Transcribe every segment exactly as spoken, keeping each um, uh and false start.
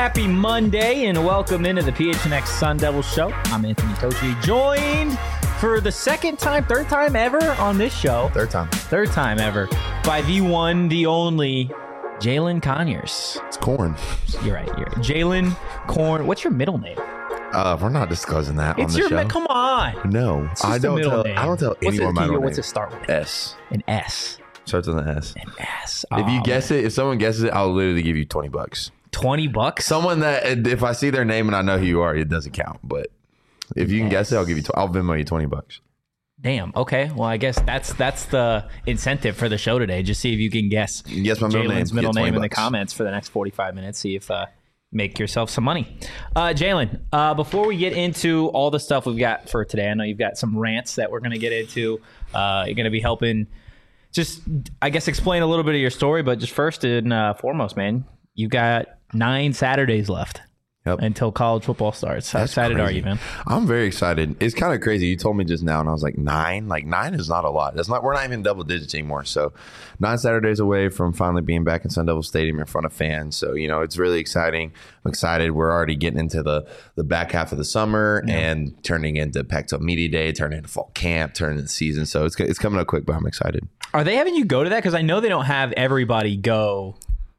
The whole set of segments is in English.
Happy Monday and welcome into the P H N X Sun Devils show. I'm Anthony Tochi, joined for the second time, third time ever on this show. Third time. Third time ever by the one, the only Jalen Conyers. It's Corn. You're right. You're right. Jalen Corn. What's your middle name? Uh, we're not disclosing that It's on the your show. mi- come on. No, It's just I a don't middle tell. name. I don't tell What's anyone it, my middle What's name. it start with? S. An S. Starts with an S. An S. If you Oh, guess it, if someone guesses it, I'll literally give you twenty bucks. twenty bucks. Someone that, if I see their name and I know who you are, it doesn't count. But if you can guess it, I'll give you. Tw- I'll Venmo you twenty bucks. Damn. Okay. Well, I guess that's that's the incentive for the show today. Just see if you can guess Guess my middle name. Jalen's middle Get twenty name in the bucks. comments for the next forty-five minutes. See if uh, make yourself some money. Uh, Jalen, uh, before we get into all the stuff we've got for today, I know you've got some rants that we're going to get into. Uh, you're going to be helping just, I guess, explain a little bit of your story. But just first and uh, foremost, man, you got nine Saturdays left. Yep. Until college football starts. How That's excited are crazy. you, man? I'm very excited. It's kind of crazy. You told me just now, and I was like, nine? Like, nine is not a lot. That's not. We're not even double digits anymore. So, nine Saturdays away from finally being back in Sun Devil Stadium in front of fans. So, you know, it's really exciting. I'm excited. We're already getting into the the back half of the summer Yeah. and turning into Pac twelve Media Day, turning into fall camp, turning into season. So, it's it's coming up quick, but I'm excited. Are they having you go to that? Because I know they don't have everybody go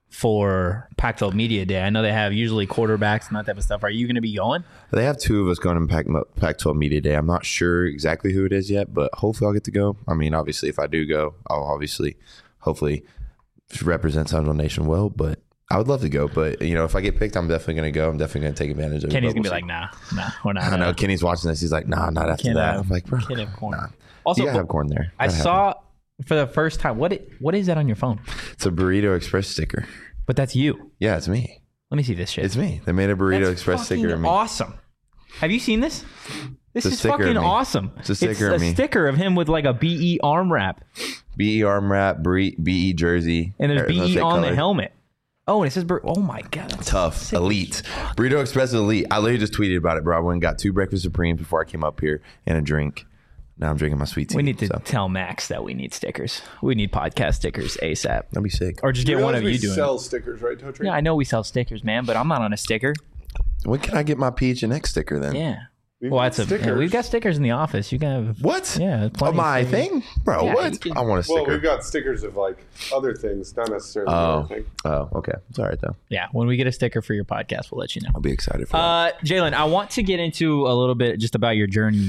for Pac twelve Media Day. I know they have usually quarterbacks and that type of stuff. Are you going to be going? They have two of us going to Pac- Pac twelve Media Day. I'm not sure exactly who it is yet, but hopefully I'll get to go. I mean, obviously, if I do go, I'll obviously, hopefully, represent Sun Devil Nation well. But I would love to go. But, you know, if I get picked, I'm definitely going to go. I'm definitely going to take advantage of Kenny's it. going to be like, nah, nah, we're not. I know uh, Kenny's watching this. He's like, nah, not after Can't that. have- I'm like, bro, can't have corn. nah. Also, You gotta have corn there. I Gotta have saw for the first time, what it, what is that on your phone? it. It's a Burrito Express sticker. But that's you. Yeah, it's me. Let me see this shit. It's me. They made a Burrito That's Express sticker fucking of me. awesome. Have you seen this? This It's a is sticker of fucking me. awesome. It's a sticker a of me. sticker of him with like a B E arm wrap. B E arm wrap, B E jersey. And there's Or, B let's E say on the color. helmet. Oh, and it says, Bur- oh my God. That's Tough, sick. elite. Burrito Express is elite. I literally just tweeted about it, bro. I went and got two breakfast supremes before I came up here and a drink. Now I'm drinking my sweet tea. We need to so. tell Max that we need stickers. We need podcast stickers ASAP. That'd be sick. Or just get one of we you doing sell it. stickers, right, Totri? Yeah, I know we sell stickers, man, but I'm not on a sticker. When can I get my P H N X sticker then? Yeah. We've well, got that's a. stickers. Yeah, we've got stickers in the office. You can have. What? Yeah, Oh, plenty of my stickers. thing? Bro, Yeah, you what? can- I want a sticker. Well, we've got stickers of like other things, not necessarily oh. everything. oh, okay. It's all right, though. Yeah, when we get a sticker for your podcast, we'll let you know. I'll be excited for that. Uh, Jalen, I want to get into a little bit just about your journey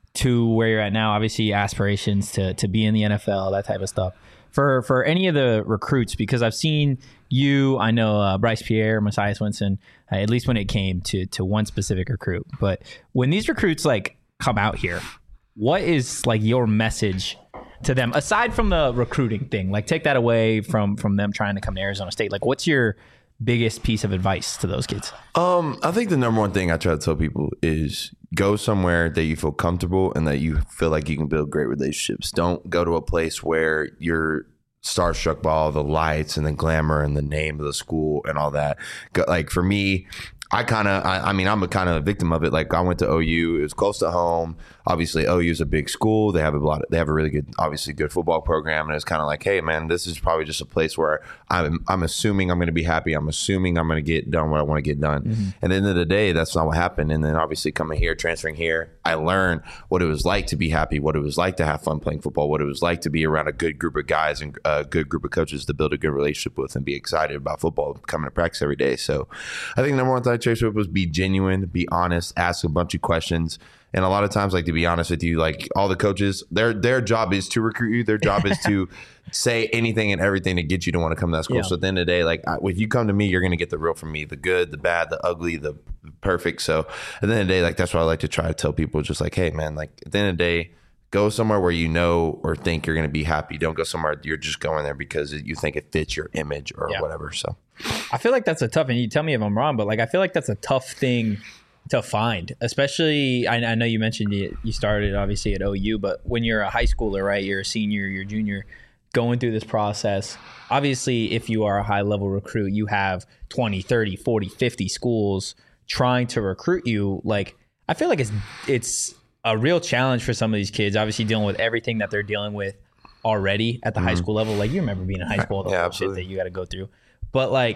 to where you're at now. Obviously, aspirations to to be in the N F L, that type of stuff. For for any of the recruits, because I've seen you, I know uh, Bryce Pierre, Messiah Swinson, uh, at least when it came to to one specific recruit. But when these recruits like come out here, what is like your message to them aside from the recruiting thing? Like take that away from from them trying to come to Arizona State. Like what's your biggest piece of advice to those kids? Um, I think the number one thing I try to tell people is go somewhere that you feel comfortable and that you feel like you can build great relationships. Don't go to a place where you're starstruck by all the lights and the glamour and the name of the school and all that. Go, like for me, I kind of, I, I mean, I'm a kind of a victim of it. Like I went to O U, it was close to home. Obviously, O U is a big school. They have a lot. Of, they have a really good, obviously good football program, and it's kind of like, hey, man, this is probably just a place where I'm, I'm assuming I'm going to be happy. I'm assuming I'm going to get done what I want to get done. Mm-hmm. And at the end of the day, that's not what happened. And then obviously coming here, transferring here, I learned what it was like to be happy, what it was like to have fun playing football, what it was like to be around a good group of guys and a good group of coaches to build a good relationship with and be excited about football, coming to practice every day. So I think the number one thing I chased with was be genuine, be honest, ask a bunch of questions. And a lot of times, like, to be honest with you, like all the coaches, their their job is to recruit you. Their job is to say anything and everything to get you to want to come to that school. Yeah. So at the end of the day, like I, if you come to me, you're going to get the real from me, the good, the bad, the ugly, the perfect. So at the end of the day, like that's what I like to try to tell people, just like, hey, man, like at the end of the day, go somewhere where you know or think you're going to be happy. Don't go somewhere you're just going there because you think it fits your image or Yeah. whatever. So I feel like that's a tough, and you tell me if I'm wrong, but like I feel like that's a tough thing to find, especially. I, I know you mentioned you, you started obviously at O U, but when you're a high schooler, right? You're a senior, you're a junior, going through this process. Obviously, if you are a high level recruit, you have twenty, thirty, forty, fifty schools trying to recruit you. Like I feel like it's it's a real challenge for some of these kids. Obviously, dealing with everything that they're dealing with already at the mm-hmm. high school level. Like you remember being in high school, the yeah, whole shit that you got to go through. But like,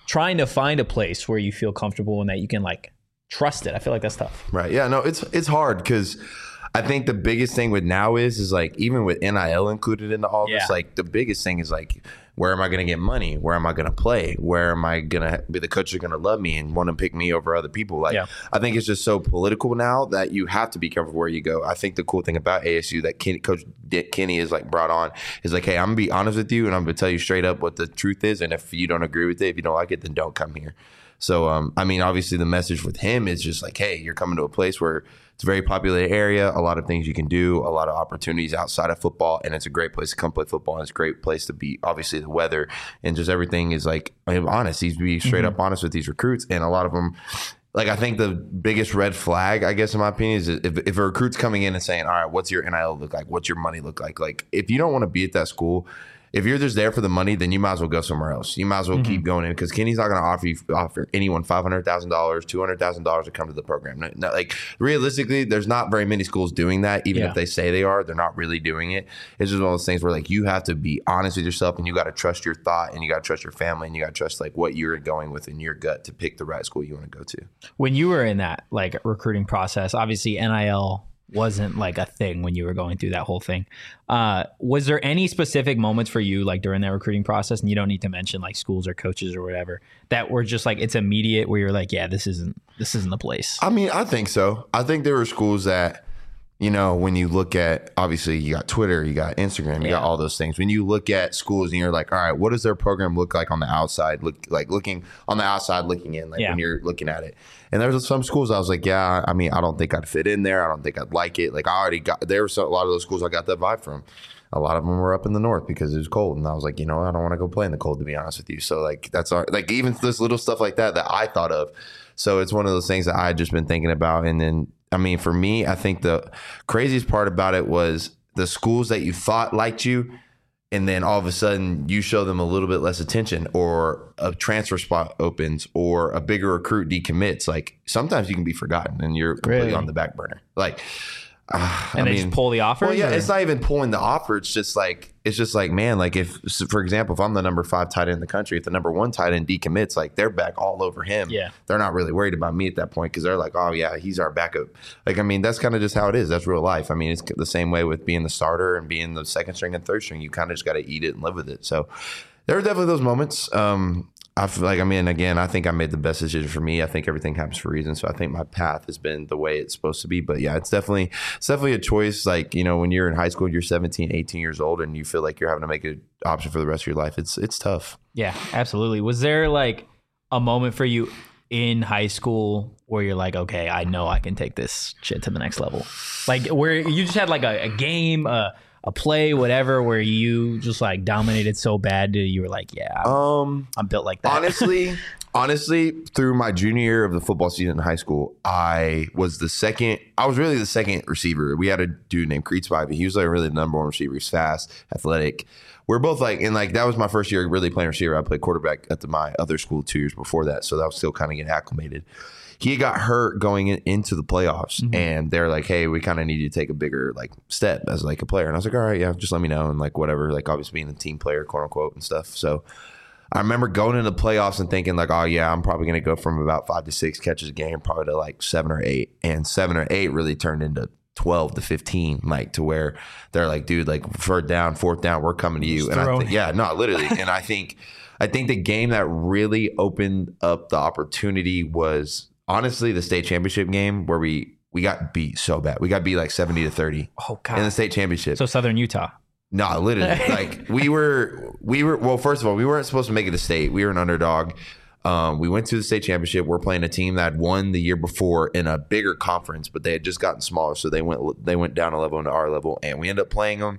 trying to find a place where you feel comfortable and that you can like trust it. I feel like that's tough. Right. Yeah, no, it's it's hard because I think the biggest thing with now is is like even with N I L included into all Yeah. this, like the biggest thing is like, where am I going to get money? Where am I going to play? Where am I going to be the coach are going to love me and want to pick me over other people? Like, Yeah. I think it's just so political now that you have to be careful where you go. I think the cool thing about A S U that Ken, Coach Dick Kenny is like brought on is like, hey, I'm going to be honest with you and I'm going to tell you straight up what the truth is. And if you don't agree with it, if you don't like it, then don't come here. So, um, I mean, obviously the message with him is just like, hey, you're coming to a place where it's a very populated area, a lot of things you can do, a lot of opportunities outside of football, and it's a great place to come play football, and it's a great place to be, obviously, the weather, and just everything is like, I'm honest. He's be straight Mm-hmm. up honest with these recruits, and a lot of them, like, I think the biggest red flag, I guess, in my opinion, is if, if a recruit's coming in and saying, all right, what's your N I L look like? What's your money look like? Like, if you don't want to be at that school, if you're just there for the money, then you might as well go somewhere else. You might as well Mm-hmm. keep going in because Kenny's not going to offer you, offer anyone five hundred thousand dollars, two hundred thousand dollars to come to the program. No, no, like realistically, there's not very many schools doing that. Even Yeah. if they say they are, they're not really doing it. It's just one of those things where like you have to be honest with yourself and you got to trust your thought and you got to trust your family and you got to trust like what you're going with in your gut to pick the right school you want to go to. When you were in that like recruiting process, obviously N I L wasn't like a thing when you were going through that whole thing. Uh, was there any specific moments for you like during that recruiting process, and you don't need to mention like schools or coaches or whatever, that were just like it's immediate where you're like, yeah, this isn't this isn't the place? I mean, I think so. I think there were schools that, you know, when you look at, obviously you got Twitter, you got Instagram, you Yeah. got all those things. When you look at schools and you're like, all right, what does their program look like on the outside? Look like looking on the outside, looking in, like Yeah. when you're looking at it. And there was some schools I was like, yeah, I mean, I don't think I'd fit in there. I don't think I'd like it. Like I already got, there were so, a lot of those schools I got that vibe from. A lot of them were up in the north because it was cold. And I was like, you know, I don't want to go play in the cold, to be honest with you. So like, that's our, like even this little stuff like that, that I thought of. So it's one of those things that I had just been thinking about. And then, I mean, for me, I think the craziest part about it was the schools that you thought liked you, and then all of a sudden you show them a little bit less attention, or a transfer spot opens, or a bigger recruit decommits. Like sometimes you can be forgotten and you're completely Really? on the back burner. Like, uh, and I they mean, just pull the offer. well, yeah, it's not even pulling the offer. It's just like, it's just like, man, like if, for example, if I'm the number five tight end in the country, if the number one tight end decommits, like they're back all over him. Yeah. They're not really worried about me at that point because they're like, oh yeah, he's our backup. Like, I mean, that's kind of just how it is. That's real life. I mean, it's the same way with being the starter and being the second string and third string. You kind of just got to eat it and live with it. So there are definitely those moments. Um, I feel like, I mean, again, I think I made the best decision for me. I think everything happens for a reason. So I think my path has been the way it's supposed to be. But yeah, it's definitely, it's definitely a choice. Like, you know, when you're in high school, you're seventeen, eighteen years old and you feel like you're having to make an option for the rest of your life. It's, it's tough. Yeah, absolutely. Was there like a moment for you in high school where you're like, okay, I know I can take this shit to the next level? Like where you just had like a, a game, a, a play, whatever, where you just like dominated so bad that you were like, yeah, I'm, Um, I'm built like that. honestly, honestly, through my junior year of the football season in high school, I was the second. I was really the second receiver. We had a dude named Creed Spivey. He was like really the number one receiver. He's fast, athletic. We're both like, and like that was my first year really playing receiver. I played quarterback at the, my other school two years before that, so that was still kind of getting acclimated. He got hurt going in, into the playoffs, Mm-hmm. and they're like, "Hey, we kind of need you to take a bigger like step as like a player." And I was like, "All right, yeah, just let me know." And like whatever, like obviously being a team player, quote unquote, and stuff. So I remember going into the playoffs and thinking like, "Oh yeah, I'm probably going to go from about five to six catches a game, probably to like seven or eight." And seven or eight really turned into twelve to fifteen, like to where they're like, "Dude, like third down, fourth down, we're coming to you." Just And I throwing think, yeah, no, literally. And I think, I think the game that really opened up the opportunity was honestly the state championship game where we we got beat so bad. We got beat like seventy to thirty Oh in the god. state championship. So Southern Utah. No, literally. Like we were, we were. Well, first of all, we weren't supposed to make it to state. We were an underdog. Um, we went to the state championship. We're playing a team that had won the year before in a bigger conference, but they had just gotten smaller, so they went they went down a level into our level, and we ended up playing them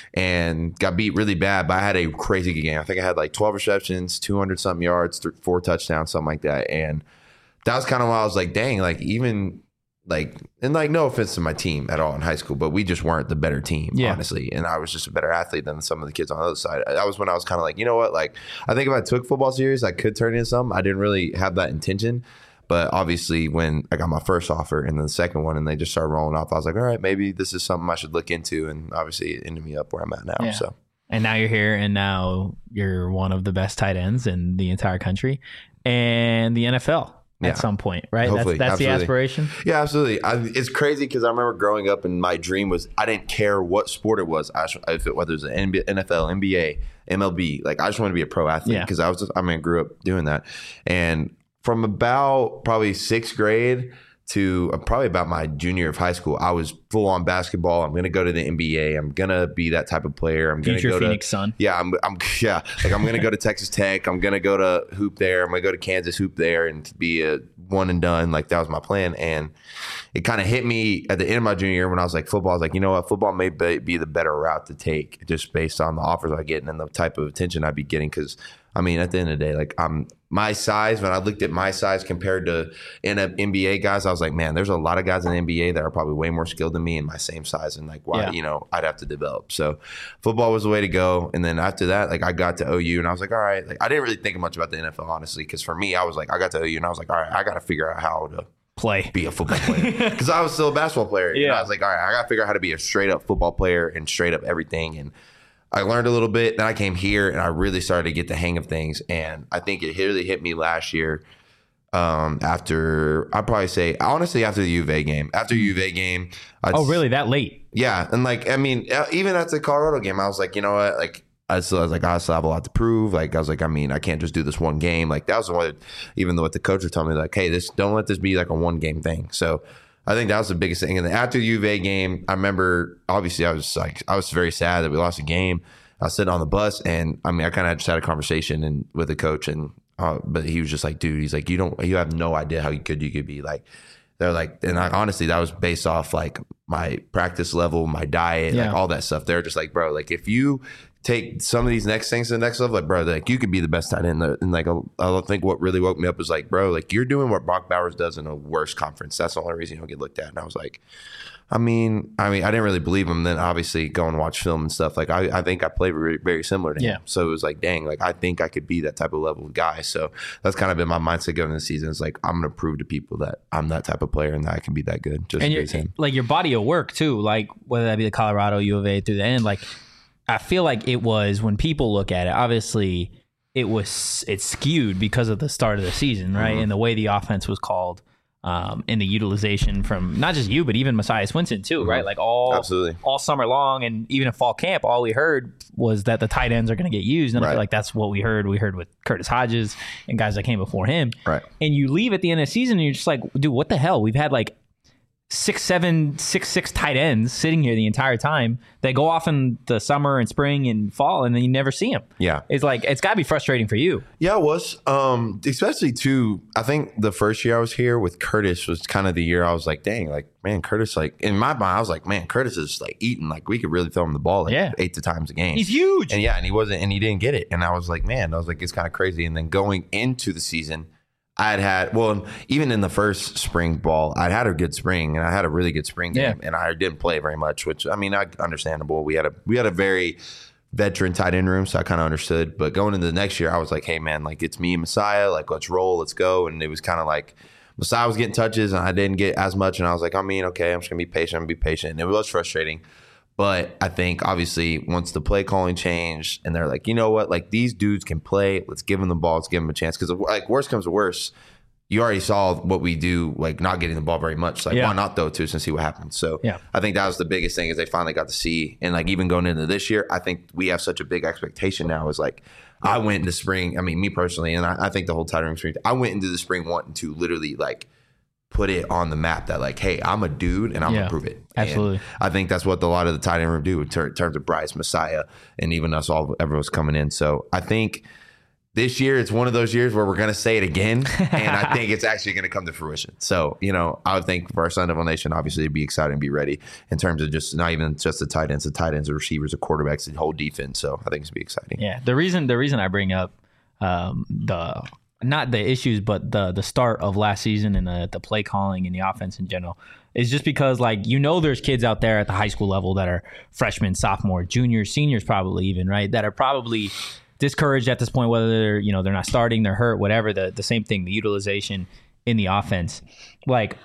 and got beat really bad. But I had a crazy good game. I think I had like twelve receptions, two hundred something yards, th- four touchdowns, something like that, and that was kind of why I was like, dang, like even. Like, and like, no offense to my team at all in high school, but we just weren't the better team, Yeah. honestly. And I was just a better athlete than some of the kids on the other side. That was when I was kind of like, you know what? Like, I think if I took football serious, I could turn into something. I didn't really have that intention. But obviously, when I got my first offer and then the second one, and they just started rolling off, I was like, all right, maybe this is something I should look into. And obviously, it ended me up where I'm at now. Yeah. So, And now you're here, and now you're one of the best tight ends in the entire country. and the N F L Yeah. at some point, right? Hopefully, that's that's the absolutely. aspiration. Yeah, absolutely. I, it's crazy because I remember growing up and my dream was I didn't care what sport it was. I, if it, whether it was an N B A, N F L, N B A, M L B, like I just wanted to be a pro athlete Yeah. because I was just, I mean, I grew up doing that. And from about probably sixth grade to uh, probably about my junior year of high school, I was full on basketball. I'm going to go to the N B A. I'm going to be that type of player. I'm going to Future go Phoenix to, Sun. Yeah, I'm, I'm yeah, like I'm going to go to Texas Tech. I'm going to go to hoop there. I'm going to go to Kansas hoop there and be a one and done. Like that was my plan. And it kind of hit me at the end of my junior year when I was like football. I was like, you know what, football may be, be the better route to take just based on the offers I get and the type of attention I'd be getting. Because I mean, at the end of the day, like I'm my size. When I looked at my size compared to N B A guys, I was like, man, there's a lot of guys in the N B A that are probably way more skilled than me in my same size, and like, why, Yeah. you know, I'd have to develop. So, football was the way to go. And then after that, like, I got to O U, and I was like, all right, like, I didn't really think much about the N F L honestly, because for me, I was like, I got to O U, and I was like, all right, I got to figure out how to Play. be a football player because I was still a basketball player. Yeah, Yeah. I was like, all right, I got to figure out how to be a straight up football player and straight up everything. And I learned a little bit. Then I came here and I really started to get the hang of things. And I think it really hit me last year. Um, after I'd probably say honestly after the U of A game, after U of A game. I'd, Oh, really? That late? Yeah, and like I mean, even at the Colorado game, I was like, you know what, like. I still I was like, I still have a lot to prove. Like, I was like, I mean, I can't just do this one game. Like, that was the one, even though what the coach was telling me, like, hey, this don't let this be like a one game thing. So I think that was the biggest thing. And then after the U of A game, I remember, obviously, I was like, I was very sad that we lost the game. I was sitting on the bus, and I mean, I kind of just had a conversation and with the coach, and uh, but he was just like, dude, he's like, you don't, you have no idea how good you could be. Like, they're like, and I, honestly, that was based off like my practice level, my diet, Yeah. like all that stuff. They're just like, bro, like if you take some of these next things to the next level, like, bro, like you could be the best tight end. And like, I think what really woke me up was like, bro, like you're doing what Brock Bowers does in a worse conference. That's the only reason you don't get looked at. And I was like, I mean, I mean, I didn't really believe him. Then obviously go and watch film and stuff. Like I, I think I played very, very similar to him. Yeah. So it was like, dang, like I think I could be that type of level of guy. So that's kind of been my mindset going into the season. It's like, I'm going to prove to people that I'm that type of player and that I can be that good. Just And as your, him. like your body of work too, like whether that be the Colorado, U of A through the end, like I feel like it was when people look at it, obviously it was it's skewed because of the start of the season, right? Mm-hmm. And the way the offense was called, um, and the utilization from not just you, but even Messiah Swinson too, right? Like all Absolutely. all summer long, and even in fall camp, all we heard was that the tight ends are going to get used, and I Right. feel like that's what we heard. We heard with Curtis Hodges and guys that came before him, Right. and you leave at the end of the season, and you're just like, dude, what the hell? We've had like six, seven, six, six tight ends sitting here the entire time. They go off in the summer and spring and fall, and then you never see them. Yeah. It's like, it's got to be frustrating for you. Yeah, it was. Um, especially too, I think the first year I was here with Curtis was kind of the year I was like, dang, like, man, Curtis, like, in my mind, I was like, man, Curtis is like eating, like, we could really throw him the ball like Yeah. eight to times a game. He's huge. And yeah, and he wasn't, and he didn't get it. And I was like, man, I was like, it's kind of crazy. And then going into the season, I had had, well, even in the first spring ball, I'd had a good spring, and I had a really good spring game, Yeah. and I didn't play very much, which, I mean, I understandable. We had a, we had a very veteran tight end room, so I kind of understood. But going into the next year, I was like, hey, man, like, it's me and Messiah, like, let's roll, let's go. And it was kind of like, Messiah was getting touches, and I didn't get as much, and I was like, I mean, okay, I'm just going to be patient, I'm going to be patient. And it was frustrating. But I think obviously once the play calling changed and they're like, you know what, like these dudes can play. Let's give them the ball. Let's give them a chance. Because like worst comes to worst, you already saw what we do, like not getting the ball very much. Like Yeah. why not throw it to us and see what happens? So Yeah. I think that was the biggest thing is they finally got to see. And like even going into this year, I think we have such a big expectation now. Is like I went into spring. I mean, me personally, and I, I think the whole tight end spring. I went into the spring wanting to literally like put it on the map that like, hey, I'm a dude and I'm Yeah, gonna prove it. absolutely. And I think that's what a lot of the tight end room do in ter- terms of Bryce, Messiah, and even us all, everyone's coming in. So I think this year it's one of those years where we're gonna say it again, and I think it's actually gonna come to fruition. So you know, I would think for our Sun Devil Nation, obviously, to be excited and be ready in terms of just not even just the tight ends, the tight ends, the receivers, the quarterbacks, the whole defense. So I think it's gonna be exciting. Yeah. The reason the reason I bring up um, the not the issues, but the the start of last season and the the play calling and the offense in general is just because like you know there's kids out there at the high school level that are freshmen, sophomore, juniors, seniors, probably even right that are probably discouraged at this point, whether they're you know they're not starting, they're hurt, whatever. The the same thing, the utilization in the offense, like.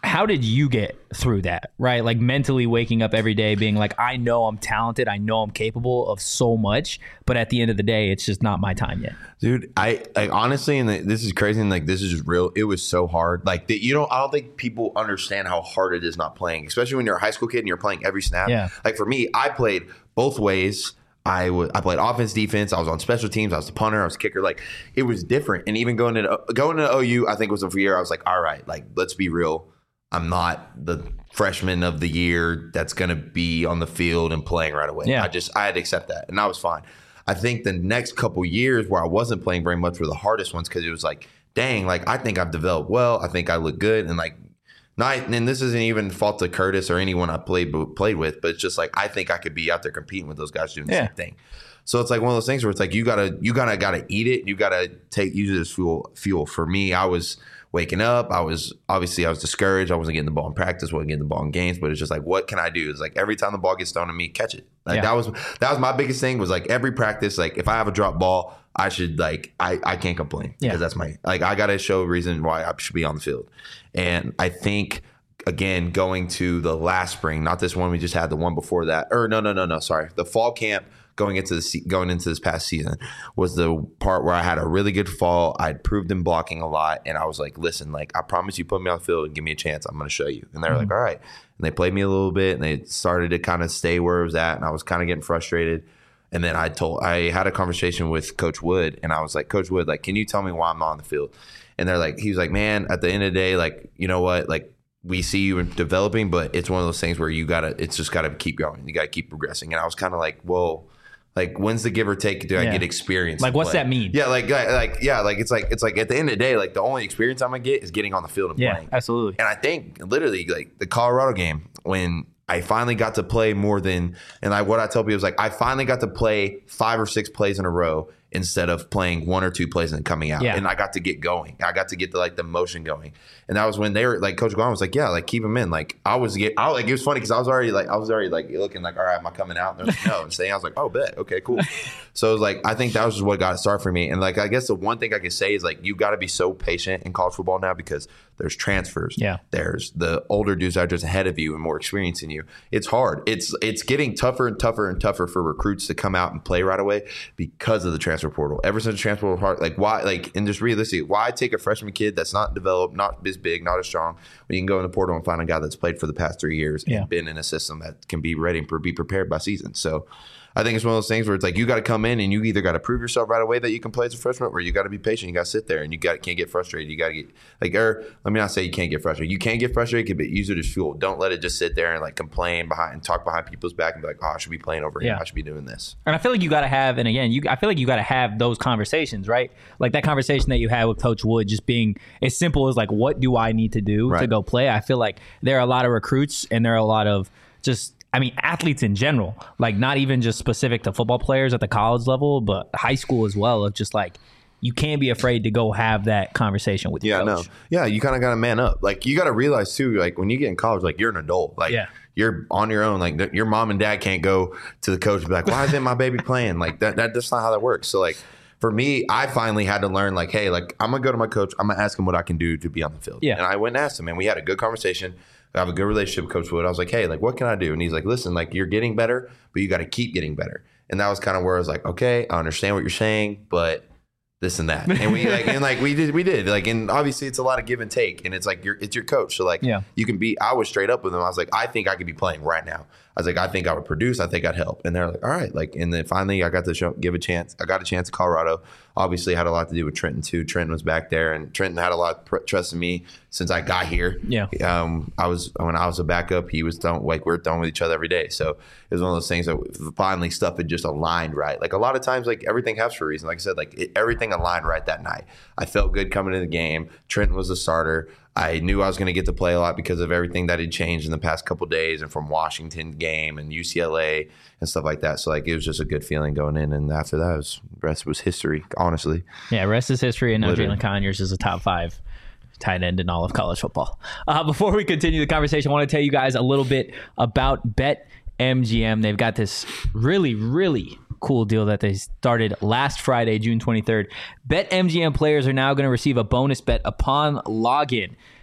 how did you get through that, right? Like mentally waking up every day being like, I know I'm talented. I know I'm capable of so much, but at the end of the day, it's just not my time yet. Dude, I like honestly, and this is crazy, and like this is just real. It was so hard. Like that, you don't. I don't think people understand how hard it is not playing, especially when you're a high school kid and you're playing every snap. Yeah. Like for me, I played both ways. I was I played offense, defense. I was on special teams. I was the punter. I was the kicker. Like it was different. And even going to going to O U, I think was a year. I was like, all right, like let's be real. I'm not the freshman of the year that's going to be on the field and playing right away. Yeah. I just I had to accept that, and I was fine. I think the next couple years where I wasn't playing very much were the hardest ones because it was like, dang, like I think I've developed well. I think I look good, and like. Not, and this isn't even fault to Curtis or anyone I played played with, but it's just like I think I could be out there competing with those guys doing the Yeah. same thing. So it's like one of those things where it's like you gotta you gotta gotta eat it. You gotta take use it as fuel. Fuel for me, I was waking up. I was obviously I was discouraged. I wasn't getting the ball in practice. wasn't getting the ball in games. But it's just like, what can I do? It's like every time the ball gets thrown to me, catch it. Like Yeah. that was that was my biggest thing. Was like every practice. Like if I have a drop ball, I should like I I can't complain Yeah. because that's my like I gotta show a reason why I should be on the field. And I think. Again, going to the last spring, not this one we just had, the one before that, or no, no, no, no, sorry, the fall camp going into the se- going into this past season was the part where I had a really good fall. I'd proved in blocking a lot, and I was like, "Listen, like I promise you, put me on the field and give me a chance. I'm going to show you." And they were Mm-hmm. like, "All right," and they played me a little bit, and they started to kind of stay where it was at, and I was kind of getting frustrated. And then I told, I had a conversation with Coach Wood, and I was like, "Coach Wood, like, can you tell me why I'm not on the field?" And they're like, he was like, "Man, at the end of the day, like, you know what, like." We see you developing, but it's one of those things where you gotta, it's just gotta keep going. You gotta keep progressing. And I was kind of like, well, like when's the give or take? Do I Yeah. get experience? Like, to what's play? that mean? Yeah, like, like, like, yeah, like it's like it's like at the end of the day, like the only experience I'm gonna get is getting on the field and Yeah, playing. absolutely. And I think literally like the Colorado game when I finally got to play more than, and I what I tell people is like I finally got to play five or six plays in a row instead of playing one or two plays and coming out. Yeah. And I got to get going. I got to get the like the motion going. And that was when they were like Coach Guan was like, yeah, like keep them in. Like I was get I was, like it was funny because I was already like I was already like looking like, all right, am I coming out? And they're like, no. And saying I was like, oh bet, okay, cool. So it was like I think that was just what got it started for me. And like I guess the one thing I could say is like you gotta be so patient in college football now because there's transfers. Yeah. There's the older dudes that are just ahead of you and more experienced than you. It's hard. It's it's getting tougher and tougher and tougher for recruits to come out and play right away because of the transfer portal. Ever since the transfer portal part, like why like and just realistically, why take a freshman kid that's not developed, not as big, not as strong, when you can go in the portal and find a guy that's played for the past three years Yeah. and been in a system that can be ready and be prepared by season. So I think it's one of those things where it's like you got to come in and you either got to prove yourself right away that you can play as a freshman, or you got to be patient. You got to sit there and you got can't get frustrated. You got to get like, or let me not say you can't get frustrated. You can't get frustrated, but use it as fuel. Don't let it just sit there and like complain behind and talk behind people's back and be like, oh, I should be playing over him. Yeah. I should be doing this. And I feel like you got to have, and again, you I feel like you got to have those conversations, right? Like that conversation that you had with Coach Wood, just being as simple as like, what do I need to do to Right. go play? I feel like there are a lot of recruits and there are a lot of just, I mean, athletes in general, like not even just specific to football players at the college level, but high school as well, of just like, you can't be afraid to go have that conversation with your Yeah, no. coach. Yeah, you kind of got to man up. Like you got to realize too, like when you get in college, like you're an adult. Like Yeah. you're on your own. Like th- your mom and dad can't go to the coach and be like, why isn't my baby playing? Like that, that that's not how that works. So like for me, I finally had to learn like, hey, like I'm gonna go to my coach. I'm gonna ask him what I can do to be on the field. Yeah. And I went and asked him, and we had a good conversation. I have a good relationship with Coach Wood. I was like, hey, like what can I do? And he's like, listen, like you're getting better, but you got to keep getting better. And that was kind of where I was like, okay, I understand what you're saying, but this and that. And we like and like we did we did. Like and obviously it's a lot of give and take. And it's like you're it's your coach. So like Yeah. you can be I was straight up with him. I was like, I think I could be playing right now. I was like, I think I would produce, I think I'd help. And they're like, all right. Like and then finally I got to show, give a chance. I got a chance at Colorado. Obviously had a lot to do with Trenton too. Trenton was back there and Trenton had a lot of pr- trust in me since I got here. Yeah. Um I was when I was a backup, he was done like we're done with each other every day. So it was one of those things that finally stuff had just aligned right. Like a lot of times like everything happens for a reason. Like I said, like it, everything aligned right that night. I felt good coming into the game. Trenton was the starter. I knew I was going to get to play a lot because of everything that had changed in the past couple of days and from Washington game and U C L A and stuff like that. So like it was just a good feeling going in. And after that, it was, the rest was history, honestly. Yeah, rest is history, and now Literally. Jalen Conyers is a top five tight end in all of college football. Uh, before we continue the conversation, I want to tell you guys a little bit about BetMGM. They've got this really, really cool deal that they started last Friday, June twenty-third. BetMGM players are now going to receive a bonus bet upon login.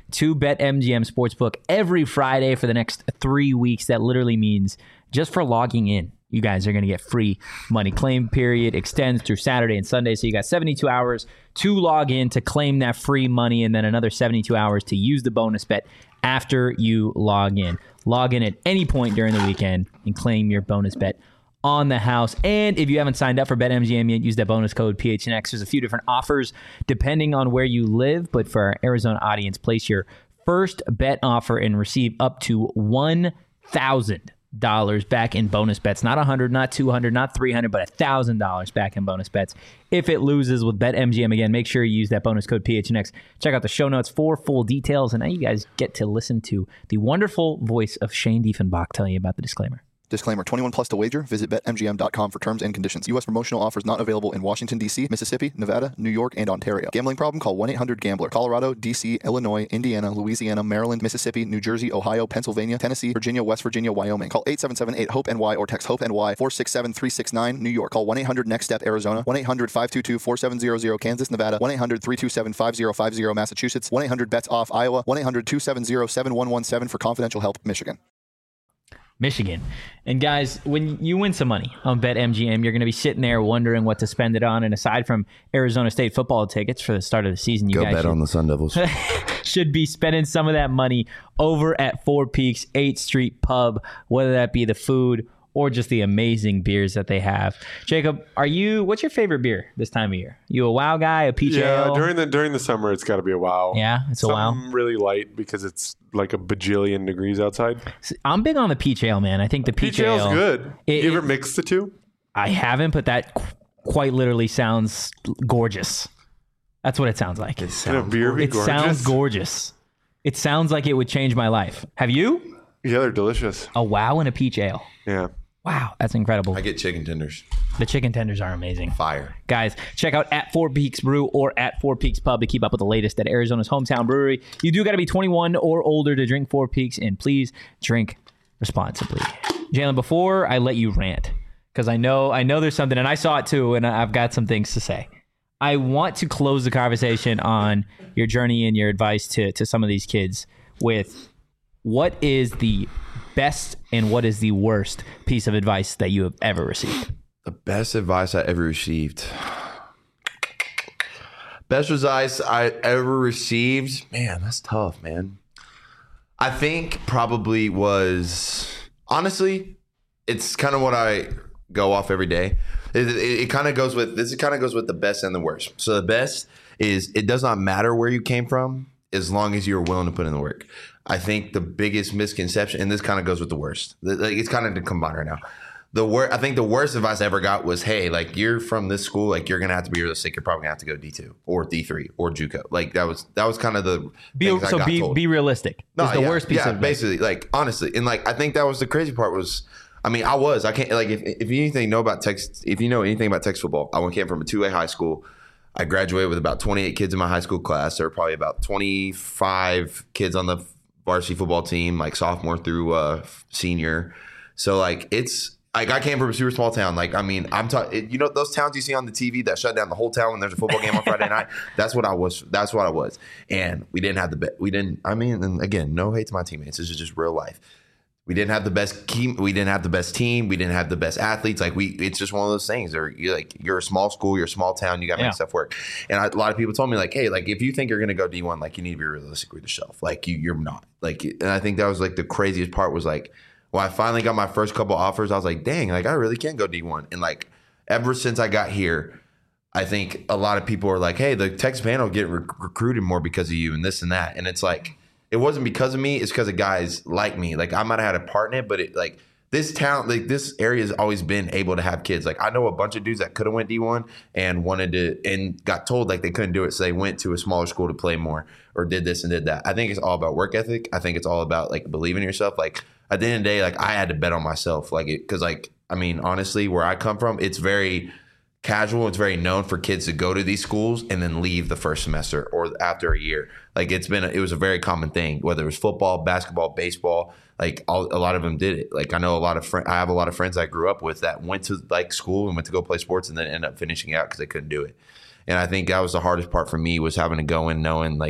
to BetMGM Sportsbook every Friday for the next three weeks. That literally means just for logging in, you guys are going to get free money. Claim period extends through Saturday and Sunday, so you got seventy-two hours to log in to claim that free money, and then another seventy-two hours to use the bonus bet after you log in. Log in at any point during the weekend and claim your bonus bet on the house. And if you haven't signed up for BetMGM yet, use that bonus code P H N X. There's a few different offers depending on where you live, but for our Arizona audience, place your first bet offer and receive up to one thousand dollars back in bonus bets. Not one hundred, not two hundred, not three hundred, but one thousand dollars back in bonus bets if it loses with BetMGM. Again, make sure you use that bonus code P H N X. Check out the show notes for full details. And now you guys get to listen to the wonderful voice of Shane Diefenbach telling you about the disclaimer. Disclaimer, twenty-one plus to wager. Visit Bet M G M dot com for terms and conditions. U S promotional offers not available in Washington, D C, Mississippi, Nevada, New York, and Ontario. Gambling problem? Call one eight hundred gambler. Colorado, D C, Illinois, Indiana, Louisiana, Maryland, Mississippi, New Jersey, Ohio, Pennsylvania, Tennessee, Virginia, West Virginia, Wyoming. Call eight seven seven eight hope N Y or text HOPE-N Y four six seven three six nine. New York. Call one eight hundred next step Arizona. one eight hundred five two two four seven zero zero. Kansas, Nevada. one eight hundred three two seven five zero five zero. Massachusetts. one eight hundred bets off Iowa. one eight hundred two seven zero seven one one seven for confidential help. Michigan. Michigan. And guys, when you win some money on BetMGM, you're going to be sitting there wondering what to spend it on. And aside from Arizona State football tickets for the start of the season, you Go guys bet should, on the Sun Devils. should be spending some of that money over at Four Peaks eighth Street Pub, whether that be the food or just the amazing beers that they have. Jacob, are you? What's your favorite beer this time of year? You a WOW guy, a peach Yeah, ale? during the during the summer, it's got to be a WOW. Yeah, it's a WOW. Something really light because it's like a bajillion degrees outside. I'm big on the peach ale, man. I think the peach, Peach ale's ale good. It, you ever it- mix the two? I haven't, but that qu- quite literally sounds gorgeous. That's what it sounds like. It Can a beer be gorgeous? sounds gorgeous. It sounds like it would change my life. Have you? Yeah, they're delicious. A WOW and a peach ale. Yeah. Wow, that's incredible. I get chicken tenders. The chicken tenders are amazing. Fire. Guys, check out at Four Peaks Brew or at Four Peaks Pub to keep up with the latest at Arizona's hometown brewery. You do got to be twenty-one or older to drink Four Peaks, and please drink responsibly. Jalen, before I let you rant, because I know I know there's something, and I saw it too, and I've got some things to say. I want to close the conversation on your journey and your advice to to some of these kids with what is the best and what is the worst piece of advice that you have ever received? The best advice I ever received. Best advice I ever received. Man, that's tough, man. I think probably was, honestly, it's kind of what I go off every day. It, it, it kind of goes with, this kind of goes with the best and the worst. So the best is it does not matter where you came from as long as you're willing to put in the work. I think the biggest misconception, and this kind of goes with the worst. Like, it's kind of combined right now. The wor- I think the worst advice I ever got was, hey, like, you're from this school, like, you're gonna have to be realistic. You're probably gonna have to go D two or D three or JUCO. Like, that was that was kind of the Be, things I so got be told. be realistic. No, is the yeah, worst piece yeah, of advice. basically, like, honestly, and like I think that was the crazy part was, I mean, I was I can't like if if you anything know about Texas, if you know anything about Texas football, I came from a two A high school. I graduated with about twenty-eight kids in my high school class. There were probably about twenty-five kids on the varsity football team, like sophomore through uh, senior. So like it's like I came from a super small town. Like I mean, I'm talking. You know those towns you see on the T V that shut down the whole town when there's a football game on Friday night. That's what I was. That's what I was. And we didn't have the bet. We didn't. I mean, and again, no hate to my teammates. This is just real life. We didn't have the best team. We didn't have the best team. We didn't have the best athletes. Like we, it's just one of those things. Or you're like you're a small school, you're a small town. You got to Yeah. make stuff work. And I, a lot of people told me like, hey, like if you think you're gonna go D one, like you need to be realistic with yourself. Like you, you're not. Like, and I think that was like the craziest part was like, when I finally got my first couple offers, I was like, dang, like I really can go D one. And like ever since I got here, I think a lot of people are like, hey, the Texas Panthers get re- recruited more because of you and this and that. And it's like, it wasn't because of me. It's because of guys like me. Like I might have had a part in it, but it like this town, like this area has always been able to have kids. Like I know a bunch of dudes that could have went D one and wanted to and got told like they couldn't do it. So they went to a smaller school to play more or did this and did that. I think it's all about work ethic. I think it's all about like believing in yourself. Like at the end of the day, like I had to bet on myself. Like it, cause like, I mean, honestly, where I come from, it's very casual. It's very known for kids to go to these schools and then leave the first semester or after a year. Like it's been, a, it was a very common thing, whether it was football, basketball, baseball, like all, a lot of them did it. Like I know a lot of friends, I have a lot of friends I grew up with that went to like school and went to go play sports and then ended up finishing out because they couldn't do it. And I think that was the hardest part for me was having to go in knowing like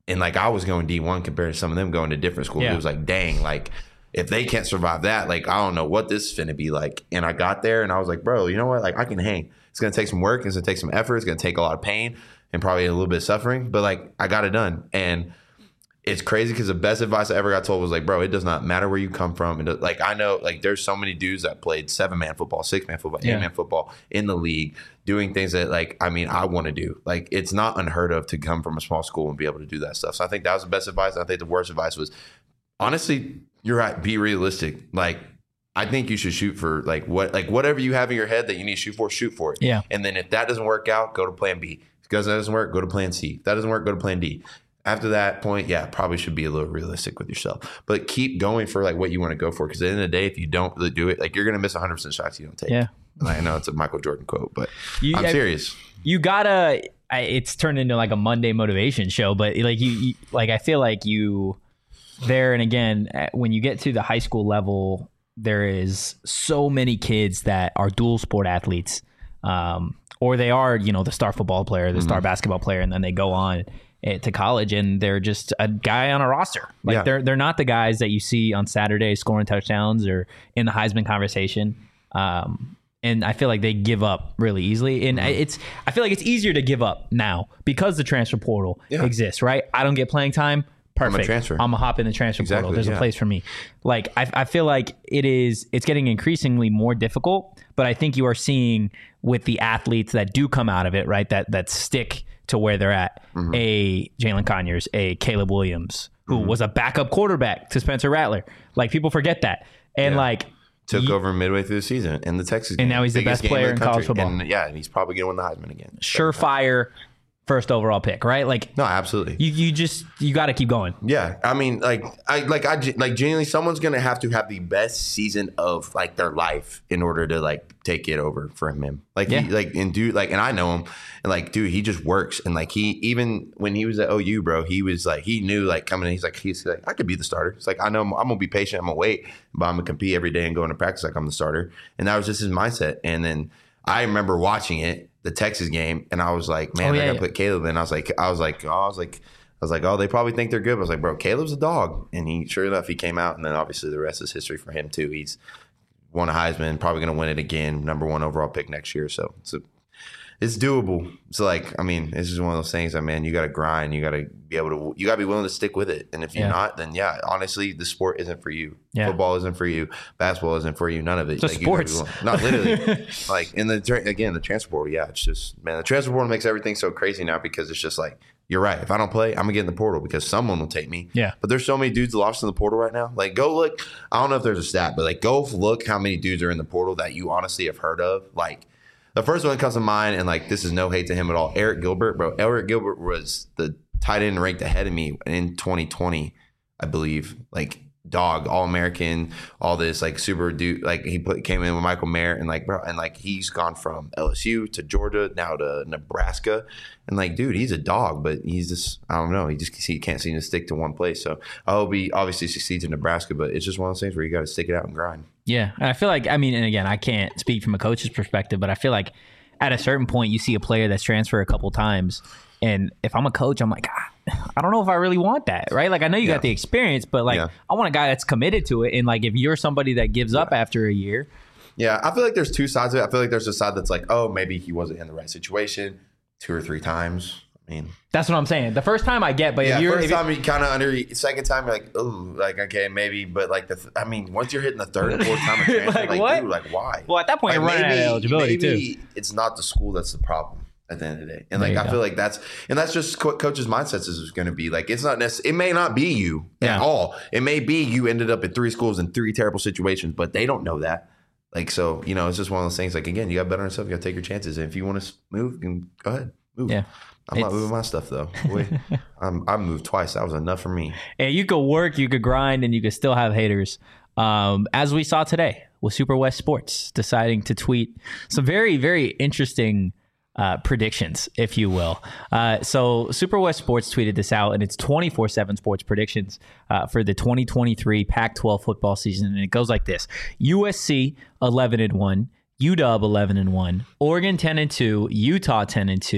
And like I was going D one compared to some of them going to different schools. Yeah. It was like, dang, like if they can't survive that, like I don't know what this is finna be like. And I got there and I was like, bro, you know what? Like I can hang. It's gonna take some work. It's gonna take some effort. It's gonna take a lot of pain and probably a little bit of suffering. But like I got it done. And it's crazy because the best advice I ever got told was like, bro, it does not matter where you come from. And like I know, like there's so many dudes that played seven man football, six man football, eight man Yeah. football in the league, doing things that like I mean I want to do. Like it's not unheard of to come from a small school and be able to do that stuff. So I think that was the best advice. I think the worst advice was honestly, you're right. Be realistic. Like I think you should shoot for like what like whatever you have in your head that you need to shoot for, shoot for it. Yeah. And then if that doesn't work out, go to plan B. Because that doesn't work, go to plan C. If that doesn't work, go to plan D. After that point, yeah, probably should be a little realistic with yourself. But keep going for like what you want to go for. Because at the end of the day, if you don't really do it, like you're going to miss one hundred percent shots you don't take. Yeah. And I know it's a Michael Jordan quote, but You- I'm I- serious. You gotta. I, it's turned into like a Monday motivation show, but like you, you, like I feel like you there. And again, at- when you get to the high school level, there is so many kids that are dual sport athletes, um, or they are, you know, the star football player, the star basketball player, and then they go on eh, to college, and they're just a guy on a roster. Like Yeah. they're they're not the guys that you see on Saturday scoring touchdowns or in the Heisman conversation. Um, and I feel like they give up really easily. And I it's I feel like it's easier to give up now because the transfer portal Yeah. exists, right? I don't get playing time. Perfect. transfer. I'm gonna hop in the transfer Exactly, portal. There's yeah. a place for me. Like I, I feel like it is. It's getting increasingly more difficult. But I think you are seeing with the athletes that do come out of it, right? That that stick to where they're at. Mm-hmm. A Jalen Conyers, a Caleb Williams, who was a backup quarterback to Spencer Rattler. Like people forget that. And Yeah. like Took ye- over midway through the season in the Texas game. And now he's the Biggest best game player the in college country. football. And yeah, and he's probably going to win the Heisman again. surefire first overall pick, right? Like No, absolutely. you, you just you got to keep going. Yeah, I mean, like, I like, I like, genuinely, someone's gonna have to have the best season of like their life in order to like take it over from him. Like, Yeah. he, like, and dude, like, and I know him, and like, dude, he just works, and like, he even when he was at O U, bro, he was like, he knew like coming in, he's like, he's like, I could be the starter. It's like, I know I'm, I'm gonna be patient, I'm gonna wait, but I'm gonna compete every day and go into practice like I'm the starter, and that was just his mindset. And then I remember watching it, the Texas game, and I was like, man, Oh, yeah, I gotta yeah. put Caleb in. I was like, I was like, oh, I was like. I was like, oh, they probably think they're good. But I was like, bro, Caleb's a dog. And he, sure enough, he came out. And then obviously the rest is history for him, too. He's won a Heisman, probably going to win it again, number one overall pick next year. So it's, a, it's doable. It's like, I mean, it's just one of those things that, man, you got to grind. You got to be able to, you got to be willing to stick with it. And if you're Yeah. not, then yeah, honestly, the sport isn't for you. Yeah. Football isn't for you. Basketball isn't for you. None of it. Just you gotta be sports. willing- Not literally. Like, in the, tra- again, the transfer portal, yeah, it's just, man, the transfer portal makes everything so crazy now because it's just like, you're right. If I don't play, I'm gonna get in the portal because someone will take me. Yeah. But there's so many dudes lost in the portal right now. Like, go look. I don't know if there's a stat, but like, go look how many dudes are in the portal that you honestly have heard of. Like, the first one that comes to mind, and like, this is no hate to him at all. Eric Gilbert, bro. Eric Gilbert was the tight end ranked ahead of me in twenty twenty, I believe. Like, dog, all American, all this like super dude. Like, he put came in with Michael Mayer, and like, bro, and like, he's gone from L S U to Georgia now to Nebraska. And like, dude, he's a dog, but he's just, I don't know. He just he can't seem to stick to one place. So I hope he obviously succeeds in Nebraska, but it's just one of those things where you got to stick it out and grind. Yeah, and I feel like I mean, and again, I can't speak from a coach's perspective, but I feel like at a certain point, you see a player that's transferred a couple times, and if I'm a coach, I'm like, ah, I don't know if I really want that, right? Like, I know you Yeah. got the experience, but like, Yeah. I want a guy that's committed to it, and like, if you're somebody that gives up after a year, Yeah, I feel like there's two sides of it. I feel like there's a side that's like, oh, maybe he wasn't in the right situation two or three times. I mean, that's what I'm saying. The first time I get, but yeah, if you're first if you- time you kind of under, second time you're like, oh, like okay, maybe, but like the, th- I mean, once you're hitting the third and fourth time of transfer, Like, like, what? dude, like why? well, at that point, Like, you're running out of eligibility maybe too. it's not the school that's the problem at the end of the day, and There like you I go. feel like that's and that's just what coach's mindsets is going to be. Like it's not necessarily, it may not be you Yeah. at all. It may be you ended up at three schools in three terrible situations, but they don't know that. Like so, you know, it's just one of those things. Like again, you got to bet on yourself. You got to take your chances. And if you want to move, you can go ahead, move. Yeah. I'm not It's- moving my stuff though. Boy, I'm, I moved twice. That was enough for me. And you could work, you could grind, and you could still have haters. Um, as we saw today with Super West Sports deciding to tweet some very, very interesting uh, predictions, if you will. Uh, so Super West Sports tweeted this out, and it's twenty-four seven sports predictions uh, for the twenty twenty-three Pac twelve football season. And it goes like this: U S C eleven and one, U W eleven and one, Oregon ten and two, Utah ten and two,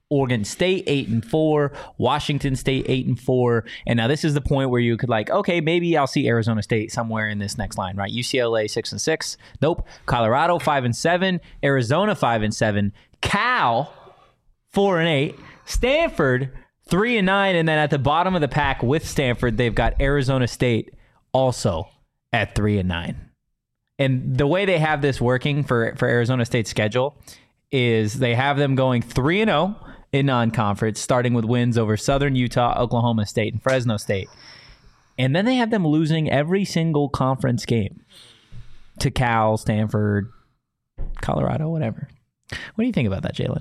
Oregon State eight and four, Washington State eight and four, and now this is the point where you could like, okay, maybe I'll see Arizona State somewhere in this next line, right? U C L A six and six, nope. Colorado five and seven, Arizona five and seven, Cal four and eight, Stanford three and nine, and then at the bottom of the pack with Stanford, they've got Arizona State also at three and nine. And the way they have this working for for Arizona State's schedule is they have them going three and zero in non-conference, starting with wins over Southern Utah, Oklahoma State, and Fresno State. And then they have them losing every single conference game to Cal, Stanford, Colorado, whatever. What do you think about that, Jalen?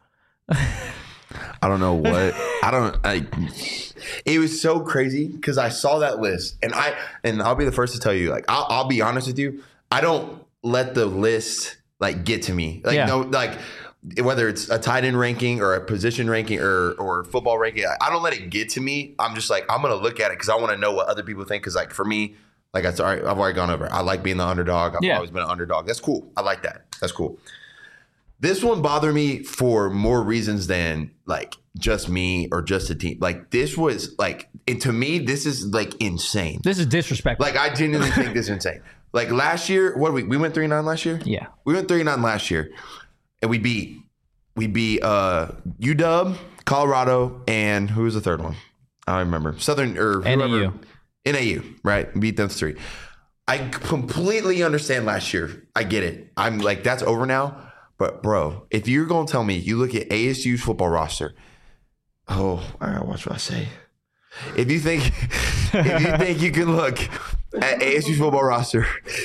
I don't know what I don't. I, it was so crazy because I saw that list, and I and I'll be the first to tell you. Like, I'll, I'll be honest with you. I don't let the list like get to me. Like, yeah. no, like. Whether it's a tight end ranking or a position ranking or or football ranking, I don't let it get to me. I'm just like, I'm going to look at it because I want to know what other people think. Because like for me, like I sorry, I've already gone over it. I like being the underdog. I've yeah. always been an underdog. That's cool. I like that. That's cool. This one bothered me for more reasons than like just me or just a team. Like this was like, and to me, this is like insane. This is disrespectful. Like I genuinely think this is insane. Like last year, what did we we went three and nine last year? Yeah, we went three and nine last year. And we beat we beat uh, U W, Colorado, and who was the third one? I don't remember. Southern or N A U. whoever. N A U, right? Beat them three. I completely understand last year. I get it. I'm like, that's over now. But bro, if you're gonna tell me you look at A S U's football roster, oh, I gotta watch what I say. If you think if you think you can look at A S U's football roster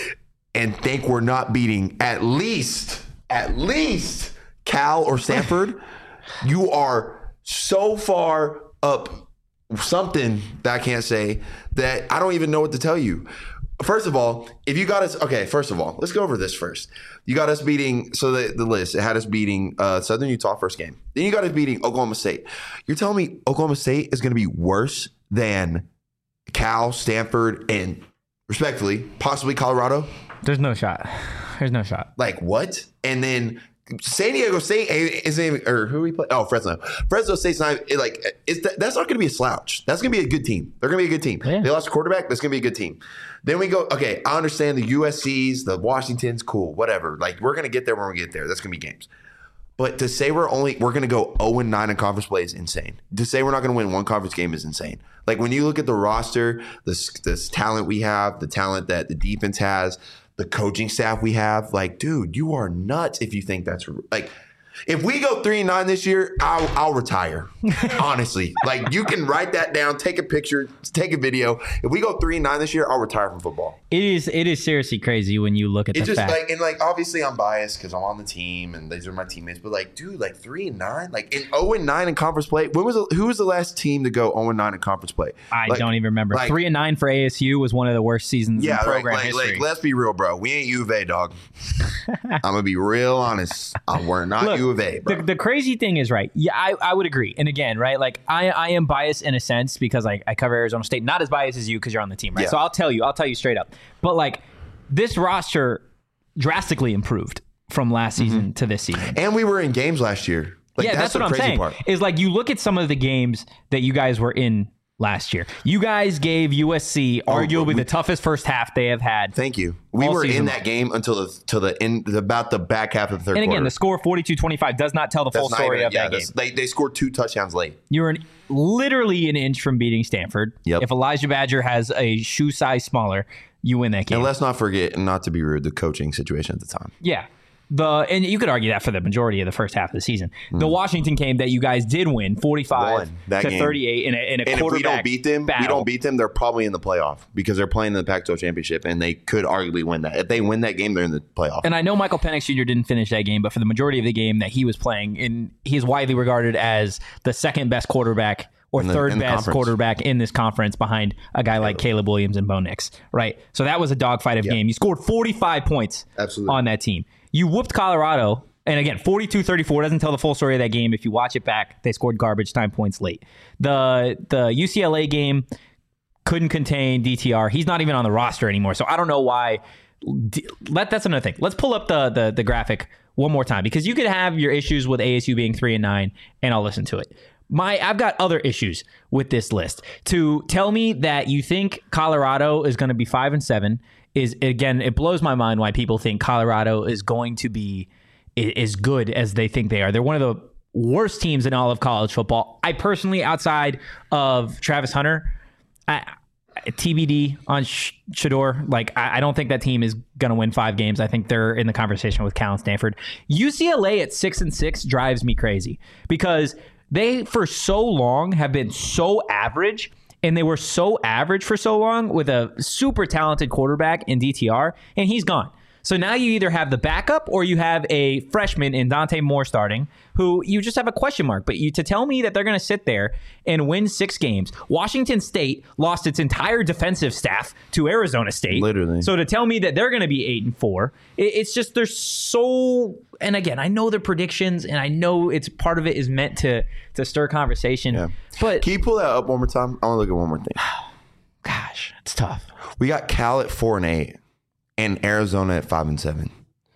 and think we're not beating at least at least Cal or Stanford, you are so far up something that I can't say that I don't even know what to tell you. First of all, if you got us, okay, first of all, let's go over this first. You got us beating, so the, the list, it had us beating uh, Southern Utah first game. Then you got us beating Oklahoma State. You're telling me Oklahoma State is going to be worse than Cal, Stanford, and respectfully, possibly Colorado? There's no shot. There's no shot. Like what? And then San Diego State isn't even, or who we play? Oh, Fresno. Fresno State's not like it's that's not going to be a slouch. That's going to be a good team. They're going to be a good team. Yeah. They lost a quarterback. That's going to be a good team. Then we go. Okay, I understand the U S Cs, the Washingtons, cool, whatever. Like we're going to get there when we get there. That's going to be games. But to say we're only we're going to go oh and nine in conference play is insane. To say we're not going to win one conference game is insane. Like when you look at the roster, this this talent we have, the talent that the defense has, the coaching staff we have, like, dude, you are nuts if you think that's like. If we go three and nine this year, I'll, I'll retire. Honestly, like you can write that down, take a picture, take a video. If we go three and nine this year, I'll retire from football. It is it is seriously crazy when you look at It's the just fact. like, and like obviously I'm biased because I'm on the team and these are my teammates. But like, dude, like three and nine, like in zero and nine in conference play. When was the, who was the last team to go zero and nine in conference play? I like, don't even remember. like, Three and nine for A S U was one of the worst seasons Yeah, in program like, like, history. like, let's be real, bro. We ain't U of A, dog. I'm gonna be real honest. Uh, we're not Look, U of A, bro. The, the crazy thing is, right? Yeah, I, I would agree. And again, right? Like I, I am biased in a sense because I, I cover Arizona State. Not as biased as you because you're on the team, right? Yeah. So I'll tell you, I'll tell you straight up. But like this roster drastically improved from last season Mm-hmm. to this season. And we were in games last year. Like, yeah, that's, that's, the what I'm crazy saying. part. Is like you look at some of the games that you guys were in last year. You guys gave U S C arguably we- the toughest first half they have had. Thank you. We all were season in long. that game until the till the end, about the back half of the third And again, quarter. the score forty-two twenty-five does not tell the full That's not story even- of yeah, that game. that's- They they scored two touchdowns late. You were an, literally an inch from beating Stanford. Yep. If Elijah Badger has a shoe size smaller, you win that game. And let's not forget, and not to be rude, the coaching situation at the time. Yeah. The and you could argue that for the majority of the first half of the season. The Washington game that you guys did win, forty-five Won that to game. thirty-eight in a, in a And if we quarterback don't beat them, battle. we don't beat them, they're probably in the playoff because they're playing in the Pac twelve championship, and they could arguably win that. If they win that game, they're in the playoff. And I know Michael Penix Junior didn't finish that game, but for the majority of the game that he was playing, in he's widely regarded as the second best quarterback or In the- third in the best conference. quarterback in this conference behind a guy like Caleb Williams and Bo Nix, right? So that was a dogfight of Yeah. game. You scored forty-five points Absolutely. on that team. You whooped Colorado. And again, forty-two thirty-four doesn't tell the full story of that game. If you watch it back, they scored garbage time points late. The the U C L A game couldn't contain D T R. He's not even on the roster anymore. So I don't know why. D- let That's another thing. Let's pull up the, the the graphic one more time, because you could have your issues with A S U being three and nine, and I'll listen to it. My, I've got other issues with this list. To tell me that you think Colorado is going to be five and seven is, again, it blows my mind why people think Colorado is going to be as good as they think they are. They're one of the worst teams in all of college football. I personally, outside of Travis Hunter, I, T B D on Shedeur, like I, I don't think that team is going to win five games. I think they're in the conversation with Cal and Stanford. U C L A at six and six drives me crazy because they, for so long, have been so average, and they were so average for so long with a super talented quarterback in D T R, and he's gone. So now you either have the backup or you have a freshman in Dante Moore starting, who you just have a question mark. But you to tell me that they're going to sit there and win six games. Washington State lost its entire defensive staff to Arizona State. Literally. So to tell me that they're going to be eight and four, it, it's just they're so. And again, I know the predictions, and I know it's part of it is meant to to stir conversation. Yeah. But Can you pull that up one more time? I want to look at one more thing. gosh, it's tough. We got Cal at four and eight. And Arizona at five and seven.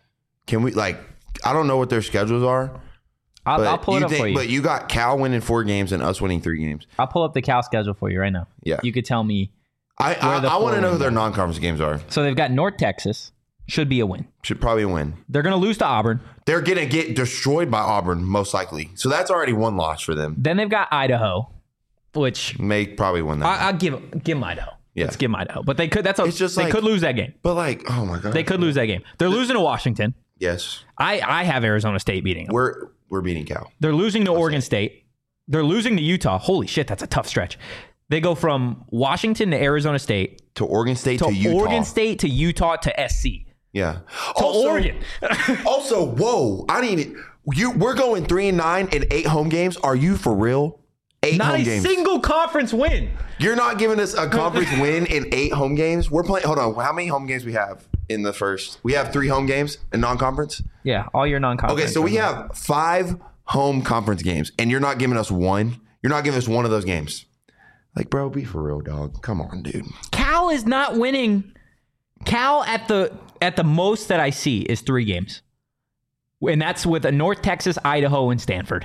Can we like? I don't know what their schedules are. I'll, but I'll pull it up think, for you. But you got Cal winning four games and us winning three games. I'll pull up the Cal schedule for you right now. Yeah, you could tell me. I I, the I want to four know who wins their are. non-conference games are. So they've got North Texas, should be a win. Should probably win. They're going to lose to Auburn. They're gonna get destroyed by Auburn most likely. So that's already one loss for them. Then they've got Idaho, which May probably win that. I, I'll give give them Idaho. Yeah. Let's give them Idaho. But they could. That's a, It's just they like- could lose that game. but like, oh my god, They could lose that game. They're losing to Washington. Yes, I, I have Arizona State beating them. we're we're beating Cal. They're losing to Oregon State. They're losing to Utah. Holy shit, that's a tough stretch. They go from Washington to Arizona State To Oregon State to, to, Utah. Oregon State to Utah to S C Yeah. to Oregon. Also, whoa! I need you. We're going three and nine in eight home games. Are you for real? Eight Not home a games. single conference win. You're not giving us a conference win in eight home games. We're playing. Hold on. How many home games we have in the first? We have three home games in non-conference. Yeah, all your non-conference. Okay, so we have five home conference games, and you're not giving us one. You're not giving us one of those games. Like, bro, be for real, dog. Come on, dude. Cal is not winning. Cal at the at the most that I see is three games, and that's with a North Texas, Idaho, and Stanford.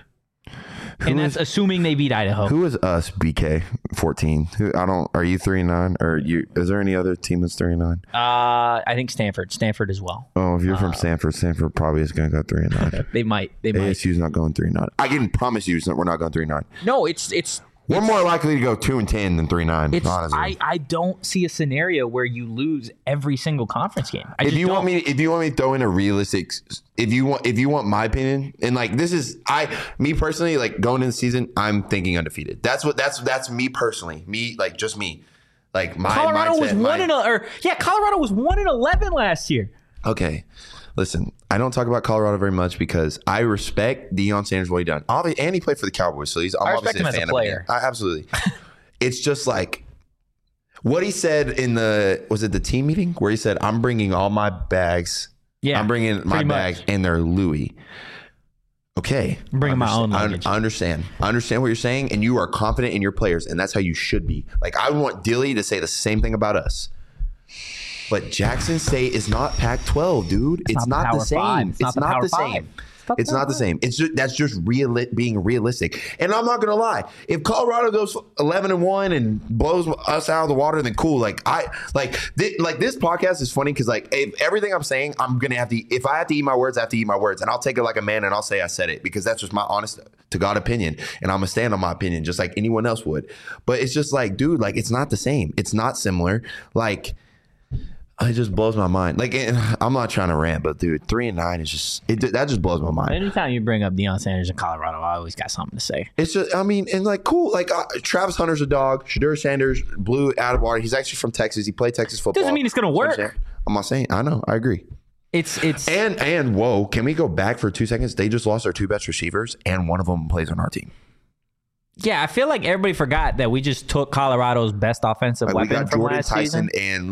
and that's assuming they beat Idaho. Who is us? B K fourteen. Who I don't. Are you three and nine? Or you? Is there any other team that's three and nine? Uh, I think Stanford. Stanford as well. Oh, if you're from Stanford, Stanford probably is going to go three and nine. They might. They might. A S U's not going three and nine. I can promise you, we're not going three and nine. No, it's it's. We're more likely to go two and ten than three and nine. It's, honestly. I, I don't see a scenario where you lose every single conference game. I if just you don't. want me, if you want me to throw in a realistic, if you want, if you want my opinion, and like this is, I, me personally, like going into the season, I'm thinking undefeated. That's what that's that's me personally, me like just me, like my Colorado mindset, was one my, and a, or yeah, Colorado was one and eleven last year. Okay, listen, I don't talk about Colorado very much because I respect Deion Sanders what he done. Obviously, and he played for the Cowboys, so he's I'm I respect obviously him a as a fan player. of him. I, absolutely. It's just like what he said in the was it the team meeting where he said, "I'm bringing all my bags. Yeah, I'm bringing my pretty much. bags, and they're Louis." Okay, I'm bringing my own I, luggage. I understand. I understand what you're saying, and you are confident in your players, and that's how you should be. Like I want Dilly to say the same thing about us. But Jackson State is not Pac twelve, dude. It's, It's not, not the Power same. Five. It's It's, not the not Power the Five. same. not It's the not the Power same. It's just that's just real being realistic. And I'm not gonna lie. If Colorado goes eleven and one and blows us out of the water, then cool. Like I like th- like this podcast is funny because like if everything I'm saying, I'm gonna have to. If I have to eat my words, I have to eat my words, and I'll take it like a man and I'll say I said it because that's just my honest to God opinion, and I'm gonna stand on my opinion just like anyone else would. But it's just like, dude, like it's not the same. It's not similar. Like. It just blows my mind. Like it, I'm not trying to rant, but dude, three and nine is just it. That just blows my mind. Anytime you bring up Deion Sanders in Colorado, I always got something to say. It's just, I mean, and like cool. Like uh, Travis Hunter's a dog. Shedeur Sanders blew out of water. He's actually from Texas. He played Texas football. Doesn't mean it's gonna work. I'm not saying. I know. I agree. It's it's And and whoa, can we go back for two seconds? They just lost their two best receivers, and one of them plays on our team. yeah. I feel like everybody forgot that we just took Colorado's best offensive Like, we weapon got from Jordan last Tyson season. and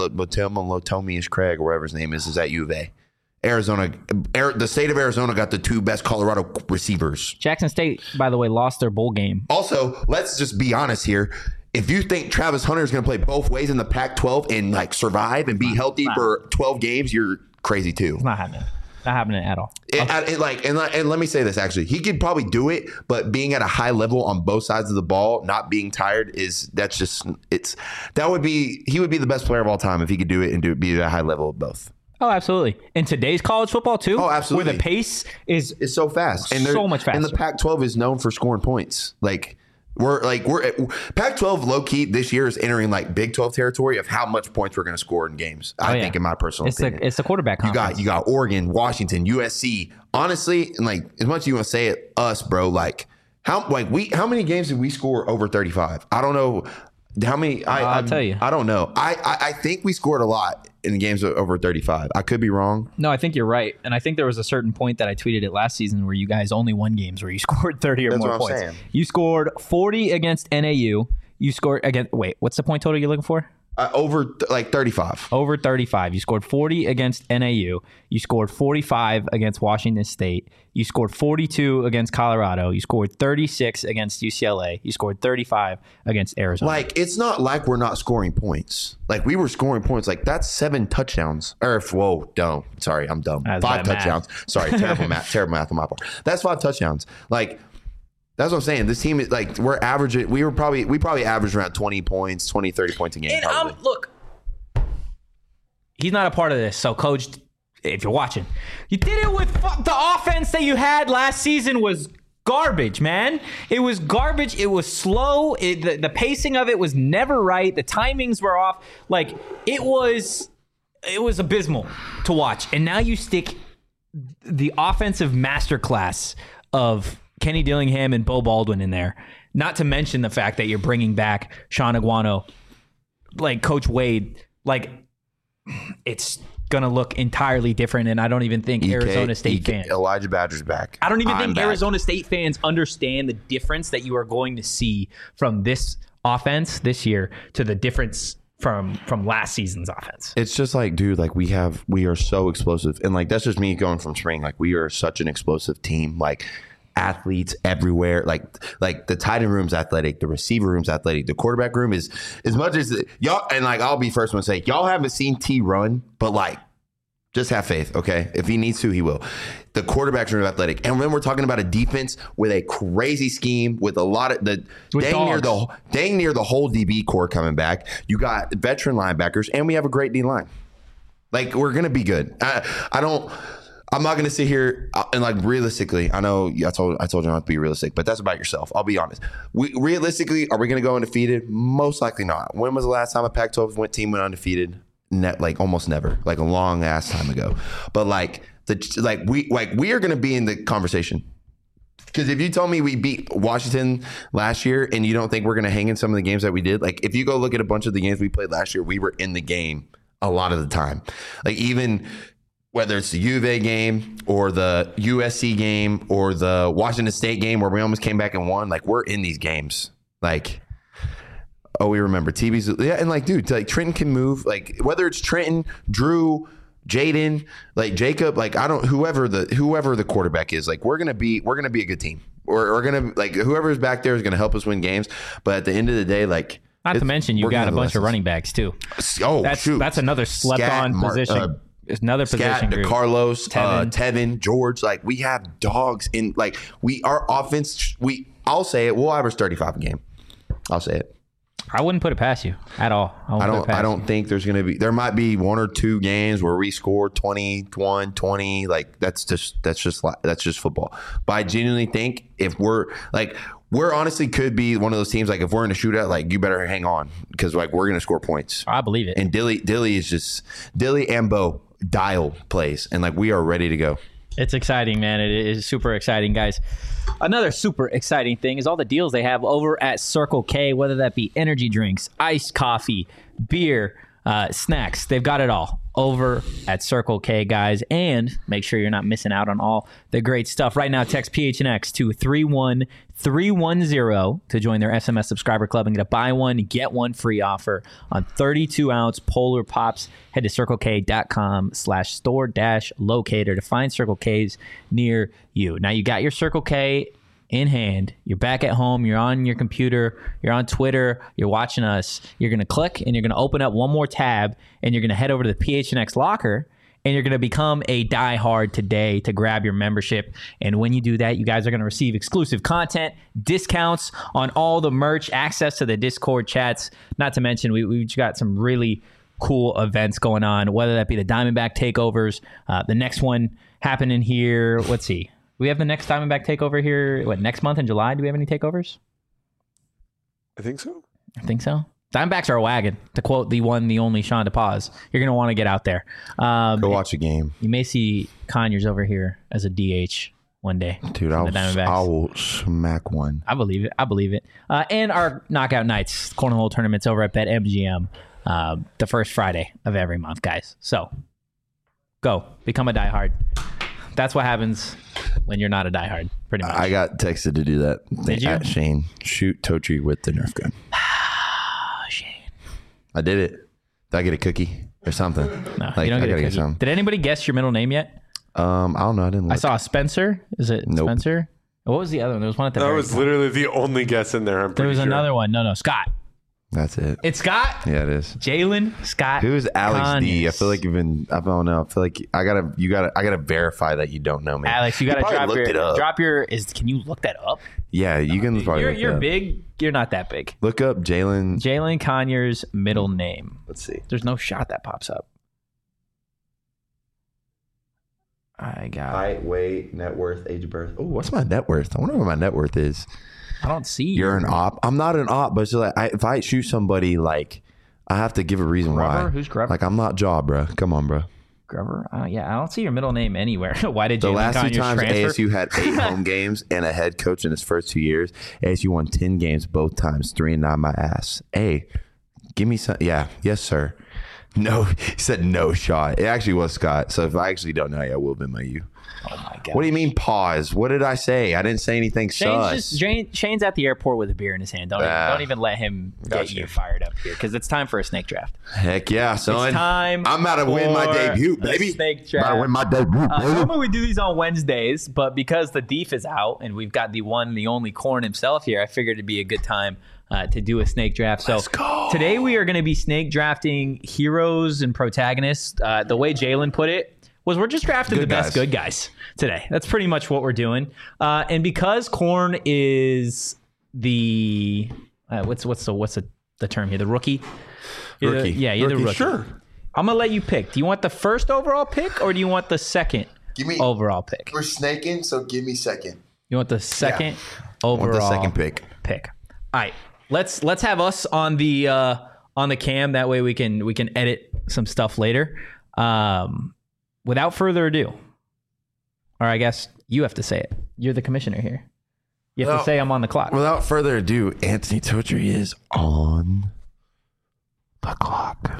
Lotomius Craig, or whatever his name is, is at U of A. Arizona, Air, the state of Arizona got the two best Colorado receivers. Jackson State, by the way, lost their bowl game. Also, let's just be honest here. If you think Travis Hunter is going to play both ways in the Pac twelve and like survive and be healthy Nah. for twelve games, you're crazy too. It's not happening. Not happening at all. It, I- it, like and, and let me say this actually, he could probably do it, but being at a high level on both sides of the ball, not being tired is that's just it's that would be he would be the best player of all time if he could do it and do it be at a high level of both. Oh, absolutely. In today's college football too. Oh, absolutely. Where the pace is It's so fast, and so they're- much And the faster. Pac twelve is known for scoring points. Like we're like we're Pac twelve low key this year is entering like Big twelve territory of how much points we're going to score in games. I Oh, yeah. think, in my personal it's opinion, the it's the quarterback you conference. got you got Oregon, Washington, U S C. Honestly, and like as much as you want to say it, us, bro. Like how like we how many games did we score over thirty-five? I don't know. How many? I, I'll I'm- tell you. I don't know. I, I I think we scored a lot in games over thirty-five. I could be wrong. No, I think you're right. And I think there was a certain point that I tweeted it last season where you guys only won games where you scored thirty or That's more what I'm points. saying. You scored forty against N A U. You scored against, wait, what's the point total you're looking for? Uh, over th- like thirty-five. Over thirty-five. You scored forty against N A U. You scored forty-five against Washington State. You scored forty-two against Colorado. You scored thirty-six against U C L A. You scored thirty-five against Arizona. Like it's not like we're not scoring points. Like we were scoring points. Like that's seven touchdowns. Or if, whoa, dumb. Sorry, I'm dumb. That's Five bad math. touchdowns. Sorry, terrible math. Terrible math on my part. That's five touchdowns. Like that's what I'm saying. This team is like we're averaging. We were probably we probably averaged around twenty points, twenty, thirty points a game. And probably. um, look, he's not a part of this. So, coach, if you're watching, you did it with fu- the offense that you had last season was garbage, man. It was garbage. It was slow. It, the, the pacing of it was never right. The timings were off. Like it was, it was abysmal to watch. And now you stick the offensive masterclass of Kenny Dillingham and Bo Baldwin in there. Not to mention the fact that you're bringing back Sean Aguano, like Coach Wade. Like it's gonna look entirely different, and I don't even think E K Arizona State E K fans. Elijah Badger's back. I don't even I'm think back. Arizona State fans understand the difference that you are going to see from this offense this year to the difference from from last season's offense. It's just like, dude, like we have, we are so explosive. And like, that's just me going from spring. Like we are such an explosive team, like athletes everywhere. Like, like the tight end room's athletic, the receiver room's athletic, the quarterback room is as much as y'all. And like, I'll be first one to say y'all haven't seen T run, but like, just have faith. Okay. If he needs to, he will. The quarterback's room is athletic. And then we're talking about a defense with a crazy scheme with a lot of the With dang near the dogs. dang near the whole D B core coming back. You got veteran linebackers, and we have a great D line. Like we're gonna be good. I, I don't. I'm not gonna sit here uh, and like realistically. I know I told I told you not to be realistic, but that's about yourself. I'll be honest. We realistically, are we gonna go undefeated? Most likely not. When was the last time a Pac twelve went team went undefeated? Net like almost never. Like a long ass time ago. But like the like we like we are gonna be in the conversation. Because if you told me we beat Washington last year and you don't think we're going to hang in some of the games that we did, like if you go look at a bunch of the games we played last year, we were in the game a lot of the time. Like even whether it's the U of A game or the U S C game or the Washington State game where we almost came back and won, like we're in these games. Like, oh, we remember T B's. Yeah, and like, dude, like Trenton can move. Like whether it's Trenton, Drew, Jaden, like Jacob, like I don't whoever the whoever the quarterback is, like we're gonna be we're gonna be a good team. We're, we're gonna like whoever's back there is gonna help us win games. But at the end of the day, like Not to it's- mention you we're got gonna a have bunch of lessons. running backs too. Oh, That's shoot. that's another slept Scat, on Mar- position. uh, It's another position Scat, group. Carlos, Tevin. Tevin. Uh, Tevin, George, like we have dogs in like we our offense. We I'll say it. We'll average thirty-five a game. I'll say it. I wouldn't put it past you at all. I, I wouldn't put it don't. past I don't you. think there's gonna be. There might be one or two games where we score twenty-one, twenty. Like that's just that's just li- that's just football. But I genuinely think if we're like we're honestly could be one of those teams. Like if we're in a shootout, like you better hang on because like we're gonna score points. I believe it. And Dilly Dilly is just Dilly and Bo dial plays, and like we are ready to go. It's exciting, man. It is super exciting, guys. Another super exciting thing is all the deals they have over at Circle K, whether that be energy drinks, iced coffee, beer, uh, snacks. They've got it all over at Circle K, guys. And make sure you're not missing out on all the great stuff. Right now, text P H N X to three one three one zero to join their S M S subscriber club and get a buy one, get one free offer on thirty-two ounce Polar Pops. Head to circlek.com slash store dash locator to find Circle K's near you. Now you got your Circle K in hand. You're back at home. You're on your computer. You're on Twitter. You're watching us. You're going to click and you're going to open up one more tab and you're going to head over to the P H N X locker and you're going to become a diehard today to grab your membership. And when you do that, you guys are going to receive exclusive content, discounts on all the merch, access to the Discord chats. Not to mention, we, we've got some really cool events going on, whether that be the Diamondback takeovers, uh, the next one happening here. Let's see. We have the next Diamondback takeover here, what, next month in July? Do we have any takeovers? I think so. I think so. Diamondbacks are a wagon, to quote the one, the only Sean DePaz. You're going to want to get out there. Um, Go watch a game. You may see Conyers over here as a D H one day. Dude, I will, I will smack one. I believe it. I believe it. Uh, and our knockout nights, cornhole tournaments over at BetMGM, uh, the first Friday of every month, guys. So go. Become a diehard. That's what happens when you're not a diehard, pretty much. I got texted to do that. Did you? At Shane, shoot Totri with the Nerf gun. Shane. I did it. Did I get a cookie or something? No, like, you don't I get a gotta cookie. something. Did anybody guess your middle name yet? Um, I don't know. I didn't look. I saw Spencer. Is it Nope. Spencer? What was the other one? There was one at the That very was top. literally the only guess in there. I'm There pretty was sure. another one. No, no, Scott. That's it. It's Scott. Yeah, it is. Jalen Scott. Who's Alex D? I Conyers. feel like you've been. I don't know. I feel like I gotta. You gotta. I gotta verify that you don't know me. Alex, you gotta probably drop looked your it up. drop your is. Can you look that up? Yeah, you can probably. You're look you're it up. big. You're not that big. Look up Jalen. Jalen Conyers' middle name. Let's see. There's no shot that pops up. I got. Height, weight, net worth, age of birth. Oh, what's my net worth? I wonder what my net worth is. I don't see. You're an op. I'm not an op, but it's just like I, if I shoot somebody, like I have to give a reason Grover? why. Who's Grover? Like I'm not Jaw, bro. Come on, bro. Grover. Uh, yeah, I don't see your middle name anywhere. Why did The Jalen last two Conyers times transfer? A S U had eight home games and a head coach in his first two years, A S U won ten games both times, three and nine my ass. Hey, give me some. Yeah, yes, sir. No, he said no shot. It actually was Scott. So if I actually don't know, yeah, I will have been my you. Oh my god. What do you mean pause? What did I say? I didn't say anything Shane's, sus. just, Shane, Shane's at the airport with a beer in his hand. Don't, even, Ah. don't even let him get Gotcha. you fired up here because it's time for a snake draft. Heck yeah, son. It's time. I'm about to win my for debut, a baby. Snake About to win draft. my debut, Uh, baby. normally we do these on Wednesdays, but because the Deef is out and we've got the one, the only Corn himself here, I figured it'd be a good time uh, to do a snake draft. So Let's go. today we are going to be snake drafting heroes and protagonists. Uh, the way Jalen put it was we're just drafting Good the best guys. good guys today. That's pretty much what we're doing. Uh, and because Corn is the uh, what's what's the what's the, the term here? The rookie. You're the- Rookie. yeah, you're the Rookie, rookie. sure. I'm gonna let you pick. Do you want the first overall pick or do you want the second Give me. overall pick? We're snaking, so give me second. You want the second I want overall the second pick. pick. All right, let's let's have us on the uh, on the cam. That way we can we can edit some stuff later. Um, without further ado, or I guess you have to say it. You're the commissioner here. You have Well, to say I'm on the clock. Without further ado, Anthony Totri is on the clock.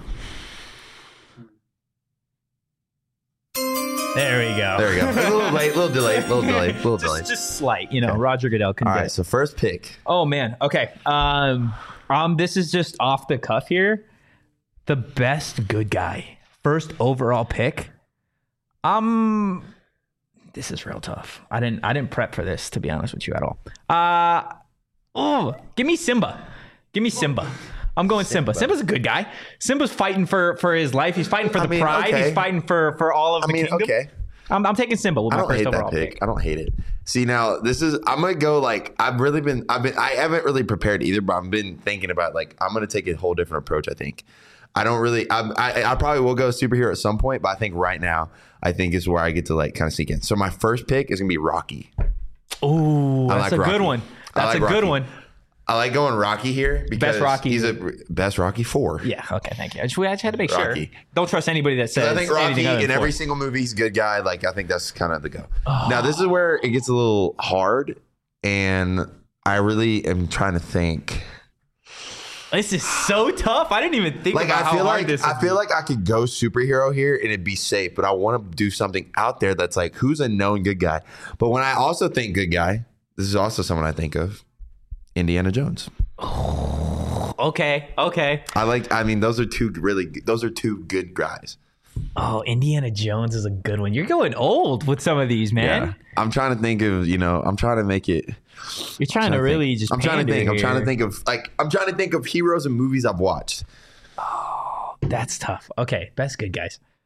There we go. There we go. A little late, little delay, little delay, little delay. Just, just slight, you know. Roger Goodell can All get right, it. so first pick. Oh man. Okay. Um, um, this is just off the cuff here. The best good guy, first overall pick. Um, this is real tough. I didn't. I didn't prep for this, to be honest with you at all. Uh, oh, give me Simba. Give me Simba. I'm going Simba. Simba's a good guy. Simba's fighting for for his life. He's fighting for I the mean, pride. okay. He's fighting for for all of I the mean, kingdom. okay. I'm, I'm taking Simba with I my don't first hate overall that pick. pick. I don't hate it. See, now this is. I'm gonna go like I've really been. I've been. I haven't really prepared either, but I've been thinking about like I'm gonna take a whole different approach. I think. I don't really. I, I I probably will go superhero at some point, but I think right now I think is where I get to like kind of sneak in. So my first pick is gonna be Rocky. Ooh, I that's like a Rocky. good one. I That's like a good Rocky. one. I like going Rocky here because Best Rocky. he's a best Rocky four. Yeah. Okay. Thank you. I just, I just had to make Rocky. sure. Don't trust anybody that says I think Rocky anything other in than every four. single movie he's a good guy. Like I think that's kind of the go. Now this is where it gets a little hard, and I really am trying to think. This is so tough. I didn't even think Like about I how feel hard like this. I would feel be. like I could go superhero here and it'd be safe, but I want to do something out there that's like who's a known good guy. But when I also think good guy, this is also someone I think of, Indiana Jones. Okay. Okay. I like. I mean, those are two really. Those are two good guys. Oh, Indiana Jones is a good one. You're going old with some of these, man. I'm trying to think of. You know, I'm trying to make it. You're trying to think. really just. I'm trying to pander think. I'm trying to here. think of like. I'm trying to think of heroes and movies I've watched. That's tough. Okay, best good guys.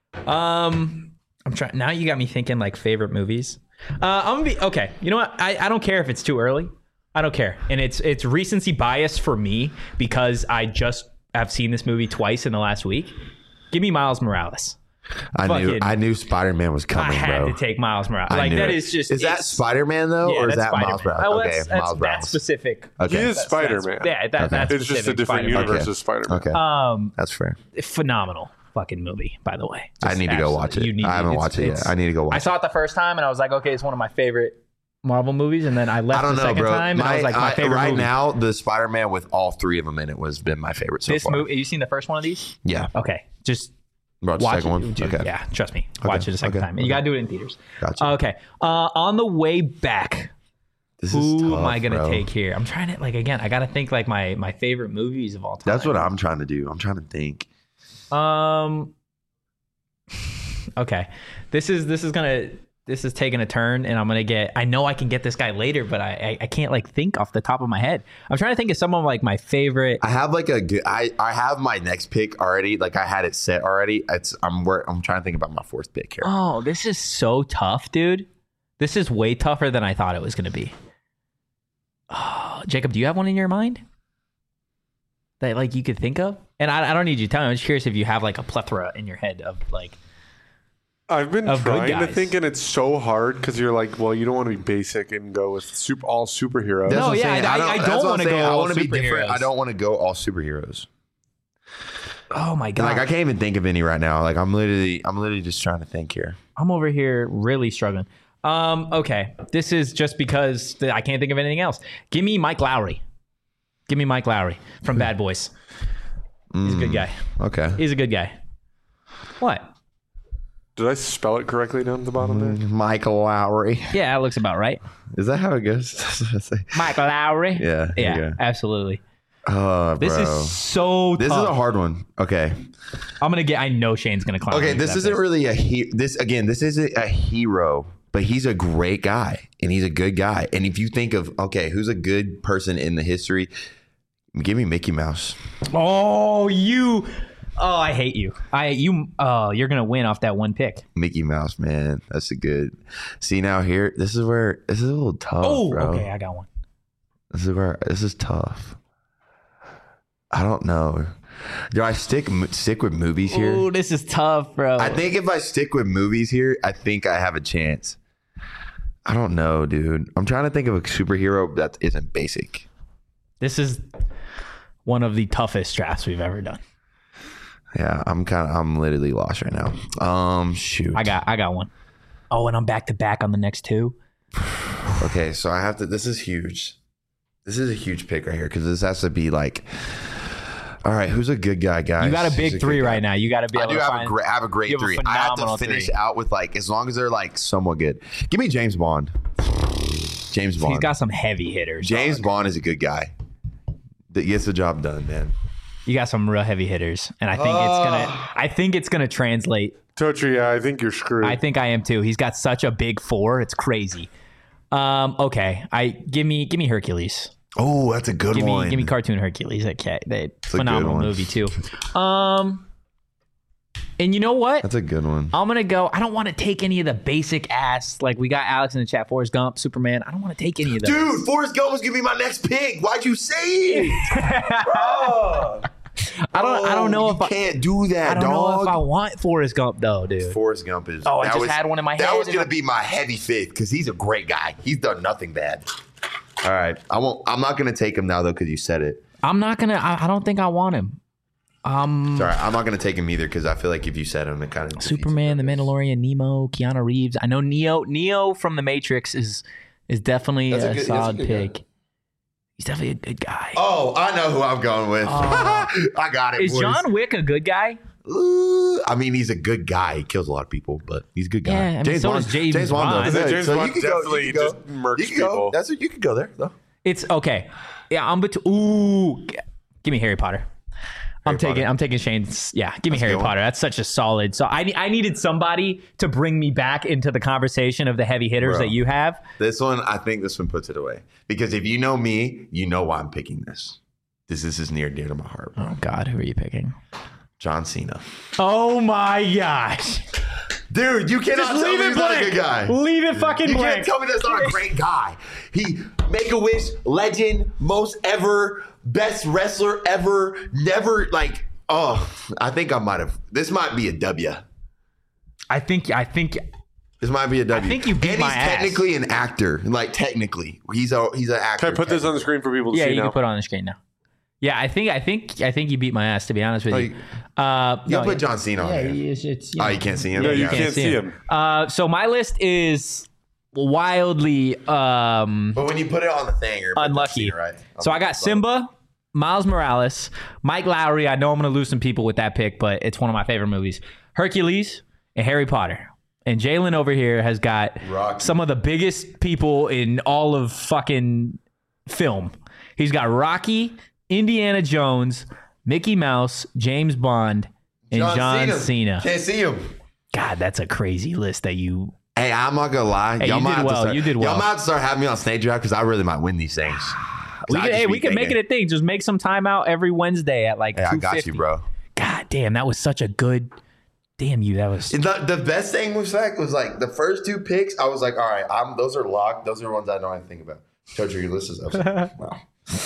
Um, I'm trying now. You got me thinking like favorite movies. Uh, I'm gonna be okay. You know what? I, I don't care if it's too early. I don't care, and it's it's recency bias for me because I just have seen this movie twice in the last week. Give me Miles Morales. I Fucking, knew I knew Spider-Man was coming, I had bro. to take Miles Morales. I Like knew that it. is just is that it's- Spider-Man though, yeah, or is that's that Miles Spider-Man. Morales? Oh, Okay, that's, that's, Miles that's Morales. specific. Okay, He is That's- Spider-Man. that's- Yeah, that, Okay. that's It's just a specific different Spider-Man. universe Okay. of Spider-Man. okay, Um, that's fair. phenomenal fucking movie, by the way. I Just need to go watch absolutely- it. you need I haven't it's- watched it yet. it's- I need to go watch I it. saw it the first time and I was like, okay, it's one of my favorite Marvel movies, and then I left I don't the know, second bro. time and I was like, my I- favorite right movie. now, the Spider-Man with all three of them in it was been my favorite so This far. movie, have you seen the first one of these? Yeah, Okay, just watch the watch second it. one. Dude, Okay, Yeah, trust me. Watch it a second okay, time. And you okay. got to do it in theaters. gotcha. Okay. Uh, on the way back, This is who tough, am I going to bro. take here? I'm trying to, like, again, I got to think, like, my, my favorite movies of all time. That's what I'm trying to do. I'm trying to think. Um. Okay, this is this is gonna this is taking a turn, and I'm gonna get. I know I can get this guy later, but I I, I can't like think off the top of my head. I'm trying to think of some of like my favorite. I have like a good. I I have my next pick already. Like I had it set already. It's I'm wor- I'm trying to think about my fourth pick here. Oh, this is so tough, dude. This is way tougher than I thought it was gonna be. Oh, Jacob, do you have one in your mind that like you could think of? And I, I don't need you to tell me. I'm just curious if you have like a plethora in your head of like. I've been Of good trying to guys. think, and it's so hard because you're like, well, you don't want to be basic and go with super, all superheroes. That's No, what I'm yeah, saying. I- I that's don't what I'm wanna saying. go I all want to be different. superheroes. I don't want to go all superheroes. Oh my god! Like I can't even think of any right now. Like I'm literally, I'm literally just trying to think here. I'm over here really struggling. Um, okay, this is just because th- I can't think of anything else. Give me Mike Lowry. Give me Mike Lowry from Bad Boys. He's a good guy. Okay. He's a good guy. What? Did I spell it correctly down at the bottom there? Michael Lowry. Yeah, that looks about right. Is that how it goes? That's what I say. Mike Lowry. Yeah. there Yeah, you go. absolutely. Oh, This bro. is so This tough. is a hard one. Okay. I'm gonna get. I know Shane's gonna climb. Okay. into This that isn't pick. really a he. This again. This isn't a hero, but he's a great guy and he's a good guy. And if you think of okay, who's a good person in the history? Give me Mickey Mouse. Oh, you. Oh, I hate you. I you. Oh, you're gonna win off that one pick. Mickey Mouse, man. That's a good. See now here. This is where this is a little tough, Oh, bro. okay, I got one. This is where this is tough. I don't know. Do I stick stick with movies here? Oh, this is tough, bro. I think if I stick with movies here, I think I have a chance. I don't know, dude. I'm trying to think of a superhero that isn't basic. This is one of the toughest drafts we've ever done. Yeah, I'm kind of I'm literally lost right now. Um, shoot. I got I got one. Oh, and I'm back to back on the next two. Okay, so I have to. This is huge. This is a huge pick right here because this has to be like. All right, who's a good guy, guys? You got a Who's big three good guy? right now. You got to be I able do to have find. a great, I have a great you have a three. I have to phenomenal finish three. out with like as long as they're like somewhat good. Give me James Bond. James Bond. He's got some heavy hitters. James dog. Bond is a good guy. That gets the job done, man. You got some real heavy hitters, and I think it's gonna. I think it's gonna translate. Totri, yeah, I think you're screwed. I think I am too. He's got such a big four. It's crazy. Um. Okay. I give me give me Hercules. Oh, that's a good Give one. me give me cartoon Hercules. Okay. They a phenomenal good one. movie too. Um. And you know what? That's a good one. I'm gonna go. I don't want to take any of the basic ass. Like we got Alex in the chat. Forrest Gump, Superman. I don't want to take any of those. Dude, Forrest Gump was gonna be my next pick. Why'd you say it? Bro. I don't. I don't know you if I. can't do that, I don't dog. know if I want Forrest Gump though, dude. Forrest Gump is. Oh, I that just was- had one in my That head was and gonna I- be my heavy fifth because he's a great guy. He's done nothing bad. All right, I won't. I'm not gonna take him now though because you said it. I'm not gonna. I, I don't think I want him. Um, Sorry, I'm not gonna take him either because I feel like if you said him, it kind of Superman, The Mandalorian, Nemo, Keanu Reeves. I know Neo. Neo from The Matrix is is definitely That's a a, good- that's a solid good pick. guy. He's definitely a good guy. Oh, I know who I'm going with. I got it. is boys. John Wick a good guy? Ooh, I mean, he's a good guy. He kills a lot of people, but he's a good guy. Yeah, I mean, so does James Bond. though. Yeah, Good. James So Bond you could go- definitely you could go- just murks you could go. people. That's what you could go there though. It's okay. Yeah, I'm between. Ooh, g- give me Harry Potter. I'm taking. Potter. I'm taking Shane's. Yeah, give me That's a Harry good one. Potter. That's such a solid. So I I needed somebody to bring me back into the conversation of the heavy hitters Bro. that you have. This one, I think this one puts it away because if you know me, you know why I'm picking this. This this is near dear to my heart. Bro. Oh God, who are you picking? John Cena. Oh my gosh. Dude, you cannot Just tell leave me it he's not a blank. good guy. Leave it fucking You blank. can't tell me that's not a great guy. He Make-A-Wish, legend, most ever, best wrestler ever, never like, oh, I think I might have. This might be a W. I think I think This might be a W. I think you beat and my he's ass. technically an actor. Like technically. He's a he's an actor. Can I put this on the screen for people to yeah, see you now? can put it on the screen now. Yeah, I think I think I think you beat my ass, to be honest with Oh, you. you- Uh, You'll no, put John Cena on yeah, there. it's, it's, you Oh, know, you can't see him? No, you Yeah. can't see him. Uh, so my list is wildly um, But when you put it on the thing, you're unlucky. right? So I got Simba, Miles Morales, Mike Lowry. I know I'm going to lose some people with that pick, but it's one of my favorite movies. Hercules and Harry Potter. And Jalen over here has got Rocky. some of the biggest people in all of fucking film. He's got Rocky, Indiana Jones, Mickey Mouse, James Bond, and John, Cena. Can't see him. God, that's a crazy list that you. Hey, I'm not gonna lie. Hey, y'all you might did have to well. start, You did well. Y'all might have to start having me on Snake Draft because I really might win these things. We I could, just hey, be we could make it thinking, a thing. Just make some time out every Wednesday at like Hey, I two got fifty. you, bro. God damn, that was such a good. Damn you, that was. The, the best thing was like was like the first two picks. I was like, all right, I'm those are locked. Those are the ones I know I think about. Told you your list is up. Wow.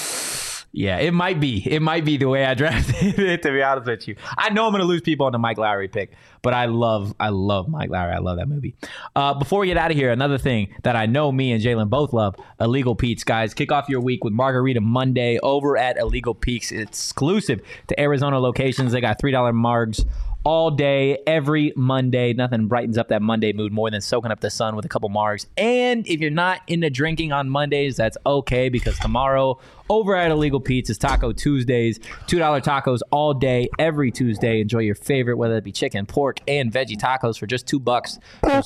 Yeah, it might be. It might be the way I drafted it, to be honest with you. I know I'm going to lose people on the Mike Lowry pick, but I love, I love Mike Lowry. I love that movie. Uh, before we get out of here, another thing that I know me and Jalen both love, Illegal Pete's. Guys, kick off your week with Margarita Monday over at Illegal Pete's. Exclusive to Arizona locations. They got three dollar margs all day, every Monday. Nothing brightens up that Monday mood more than soaking up the sun with a couple margs. And if you're not into drinking on Mondays, that's okay, because tomorrow over at Illegal Pete's is Taco Tuesdays. two dollar tacos all day, every Tuesday. Enjoy your favorite, whether it be chicken, pork, and veggie tacos for just two bucks. So s-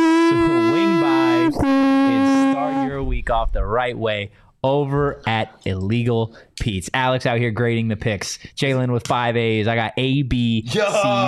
swing by and start your week off the right way over at Illegal Pete's. Alex out here grading the picks. Jalen with five A's. I got A, B, C, D,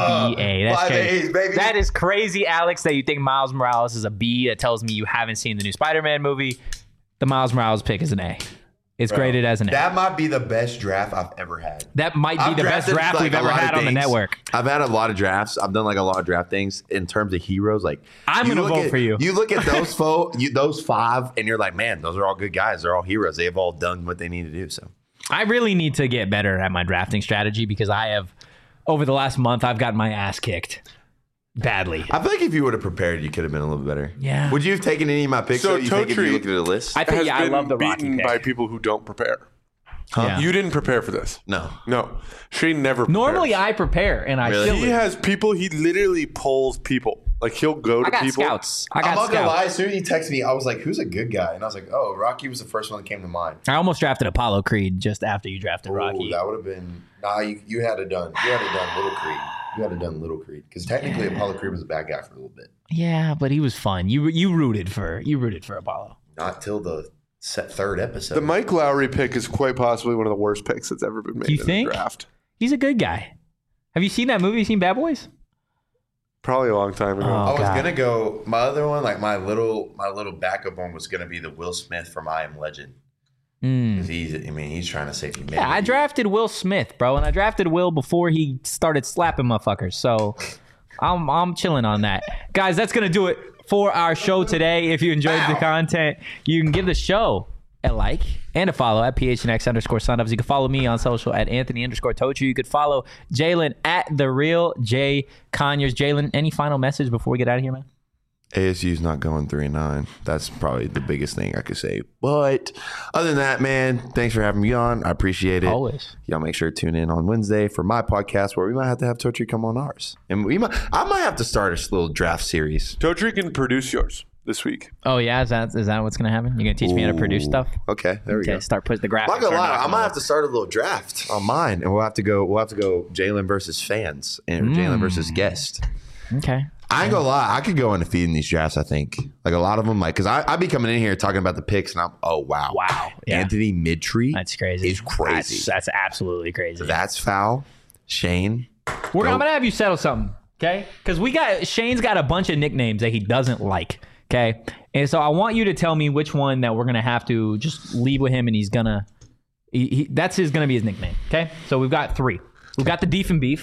A. That's five crazy. A's, baby. That is crazy, Alex, that you think Miles Morales is a B. That tells me you haven't seen the new Spider-Man movie. The Miles Morales pick is an A. It's graded as an A. That might be the best draft I've ever had. That might be I've the best drafted, draft like, we've a ever lot of had on the things. network. I've had a lot of drafts. I've done like a lot of draft things in terms of heroes. Like I'm you gonna look vote at- for you. You look at those fo- you, those five, and you're like, man, those are all good guys. They're all heroes. They've all done what they need to do. So I really need to get better at my drafting strategy, because I have, over the last month, I've gotten my ass kicked badly. I feel like if you would have prepared, you could have been a little better. Yeah. Would you have taken any of my picks? So So you think if you Totri looked at the list? I think, has yeah, I been love the Rocky beaten pick. by people who don't prepare. Yeah. You didn't prepare for this. no. No, Shane never. Normally, prepares. I prepare, and I Really? still He has people. He literally pulls people. Like he'll go to I got people. scouts. I I'm got not gonna scouts. lie. As soon as he texted me, I was like, "Who's a good guy?" And I was like, "Oh, Rocky was the first one that came to mind." I almost drafted Apollo Creed just after you drafted Ooh, Rocky. that would have been. Nah, you, you had to done. You had to done Little Creed. You had to done Little Creed because technically Apollo Creed was a bad guy for a little bit. Yeah, but he was fun. You you rooted for you rooted for Apollo. Not till the set third episode. The Mike Lowry pick is quite possibly one of the worst picks that's ever been made You in think? a draft. He's a good guy. Have you seen that movie? You seen Bad Boys? Probably a long time ago. Oh. I was God. gonna go. My other one, like my little, my little backup one, was gonna be the Will Smith from I Am Legend. Mm. 'Cause He's, I mean, he's trying to save humanity. Yeah, I drafted Will Smith, bro, and I drafted Will before he started slapping motherfuckers. So I'm I'm chilling on that. Guys, that's gonna do it for our show today. If you enjoyed the content, you can give the show a like and a follow at P H N X underscore sunups. You can follow me on social at Anthony underscore Tochu. You could follow Jalen at the real J Conyers. Jalen, any final message before we get out of here, man? A S U's not going three and nine. That's probably the biggest thing I could say. But other than that, man, thanks for having me on. I appreciate it. Always. Y'all make sure to tune in on Wednesday for my podcast, where we might have to have Totri come on ours, and we might. I might have to start a little draft series. Totri can produce yours this week. Oh yeah, is that is that what's gonna happen? You're gonna teach me how to produce stuff? Okay, there we Okay, go. start putting the graphics. I'm not gonna are lie, not I gonna might work. have to start a little draft on mine, and we'll have to go. We'll have to go Jalen versus fans and Jalen versus guest. Okay. I ain't gonna lie, I could go undefeated in these drafts. I think like a lot of them, like because I I be coming in here talking about the picks, and I'm oh wow, Wow. Yeah. Anthony Midtree, That's crazy. Is crazy. That's, that's absolutely crazy. That's foul. Shane, We're Nope. I'm gonna have you settle something, okay? Because we got Shane's got a bunch of nicknames that he doesn't like, okay? And so I want you to tell me which one that we're gonna have to just leave with him, and he's gonna. He, he, that's his gonna be his nickname, okay? So we've got three. We've got the Deef and Beef.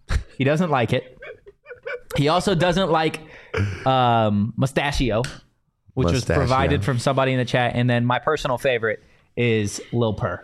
He doesn't like it. He also doesn't like um, Mustachio, which was Mustachio. provided from somebody in the chat. And then my personal favorite is Lil Purr.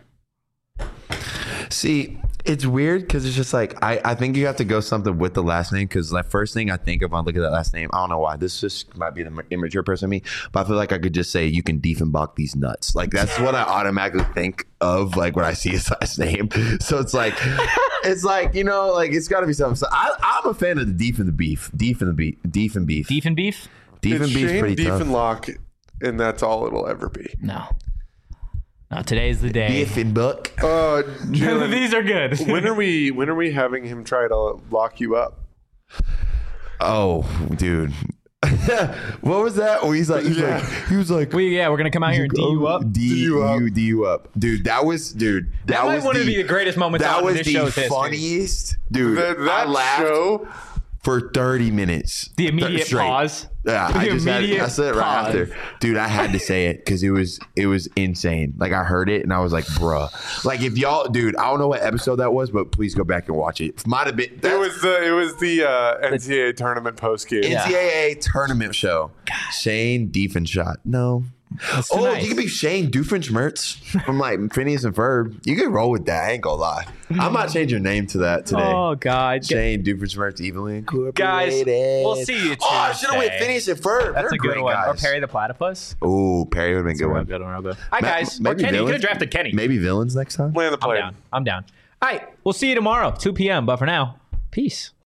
See, it's weird because it's just like I, I think you have to go something with the last name because the first thing I think of when I look at that last name, I don't know why. This just might be the immature person in me, but I feel like I could just say you can Diefenbach these nuts. Like that's what I automatically think of like when I see his last name. So it's like it's like, you know, like it's gotta be something. So I I'm a fan of the Deef and the Beef. Deef and the Beef. Deef and Beef. Beef and beef? Deef It's and Beef's Shane pretty tough. Diefenbach, and that's all it'll ever be. No. No, today's the day. Diefenbach. Uh, Jalen, These are good. when are we? When are we having him try to lock you up? Oh, dude. What was that? Oh, he's like, he's Yeah. like, he was like, We, yeah, we're going to come out here and D you up. D you up. you D you up, dude. That was, dude. That, That might was want the, to be the greatest moments That on was this the show's history. funniest, dude. That, I that laughed show. for thirty minutes. The Th- immediate straight. pause. Yeah, The I just had, immediate I said it right pause. after, dude. I had to say it because it was it was insane. Like I heard it and I was like, bruh. Like if y'all, dude, I don't know what episode that was, but please go back and watch it. It might have been. It was the it was the uh, N C double A tournament post game. Yeah. N C double A tournament show. Shane Diefenshot. No. That's too Oh, nice. you could be Shane Doofenshmirtz from like Phineas and Ferb. You could roll with that. I ain't gonna lie. I might change your name to that today. Oh, God. Shane Doofenshmirtz, Evilly Incorporated. Guys, we'll see you Oh, I should have went Tuesday. Phineas and Ferb. That's They're a good great one. Or guys. Perry the Platypus. Oh, Perry would have been a good Real one. good one, real good. Hi, Ma- guys. Or maybe Kenny. You could villains? have drafted Kenny. Maybe villains next time. Land the I'm plane. down. I'm down. All right. We'll see you tomorrow, two p.m. But for now, peace.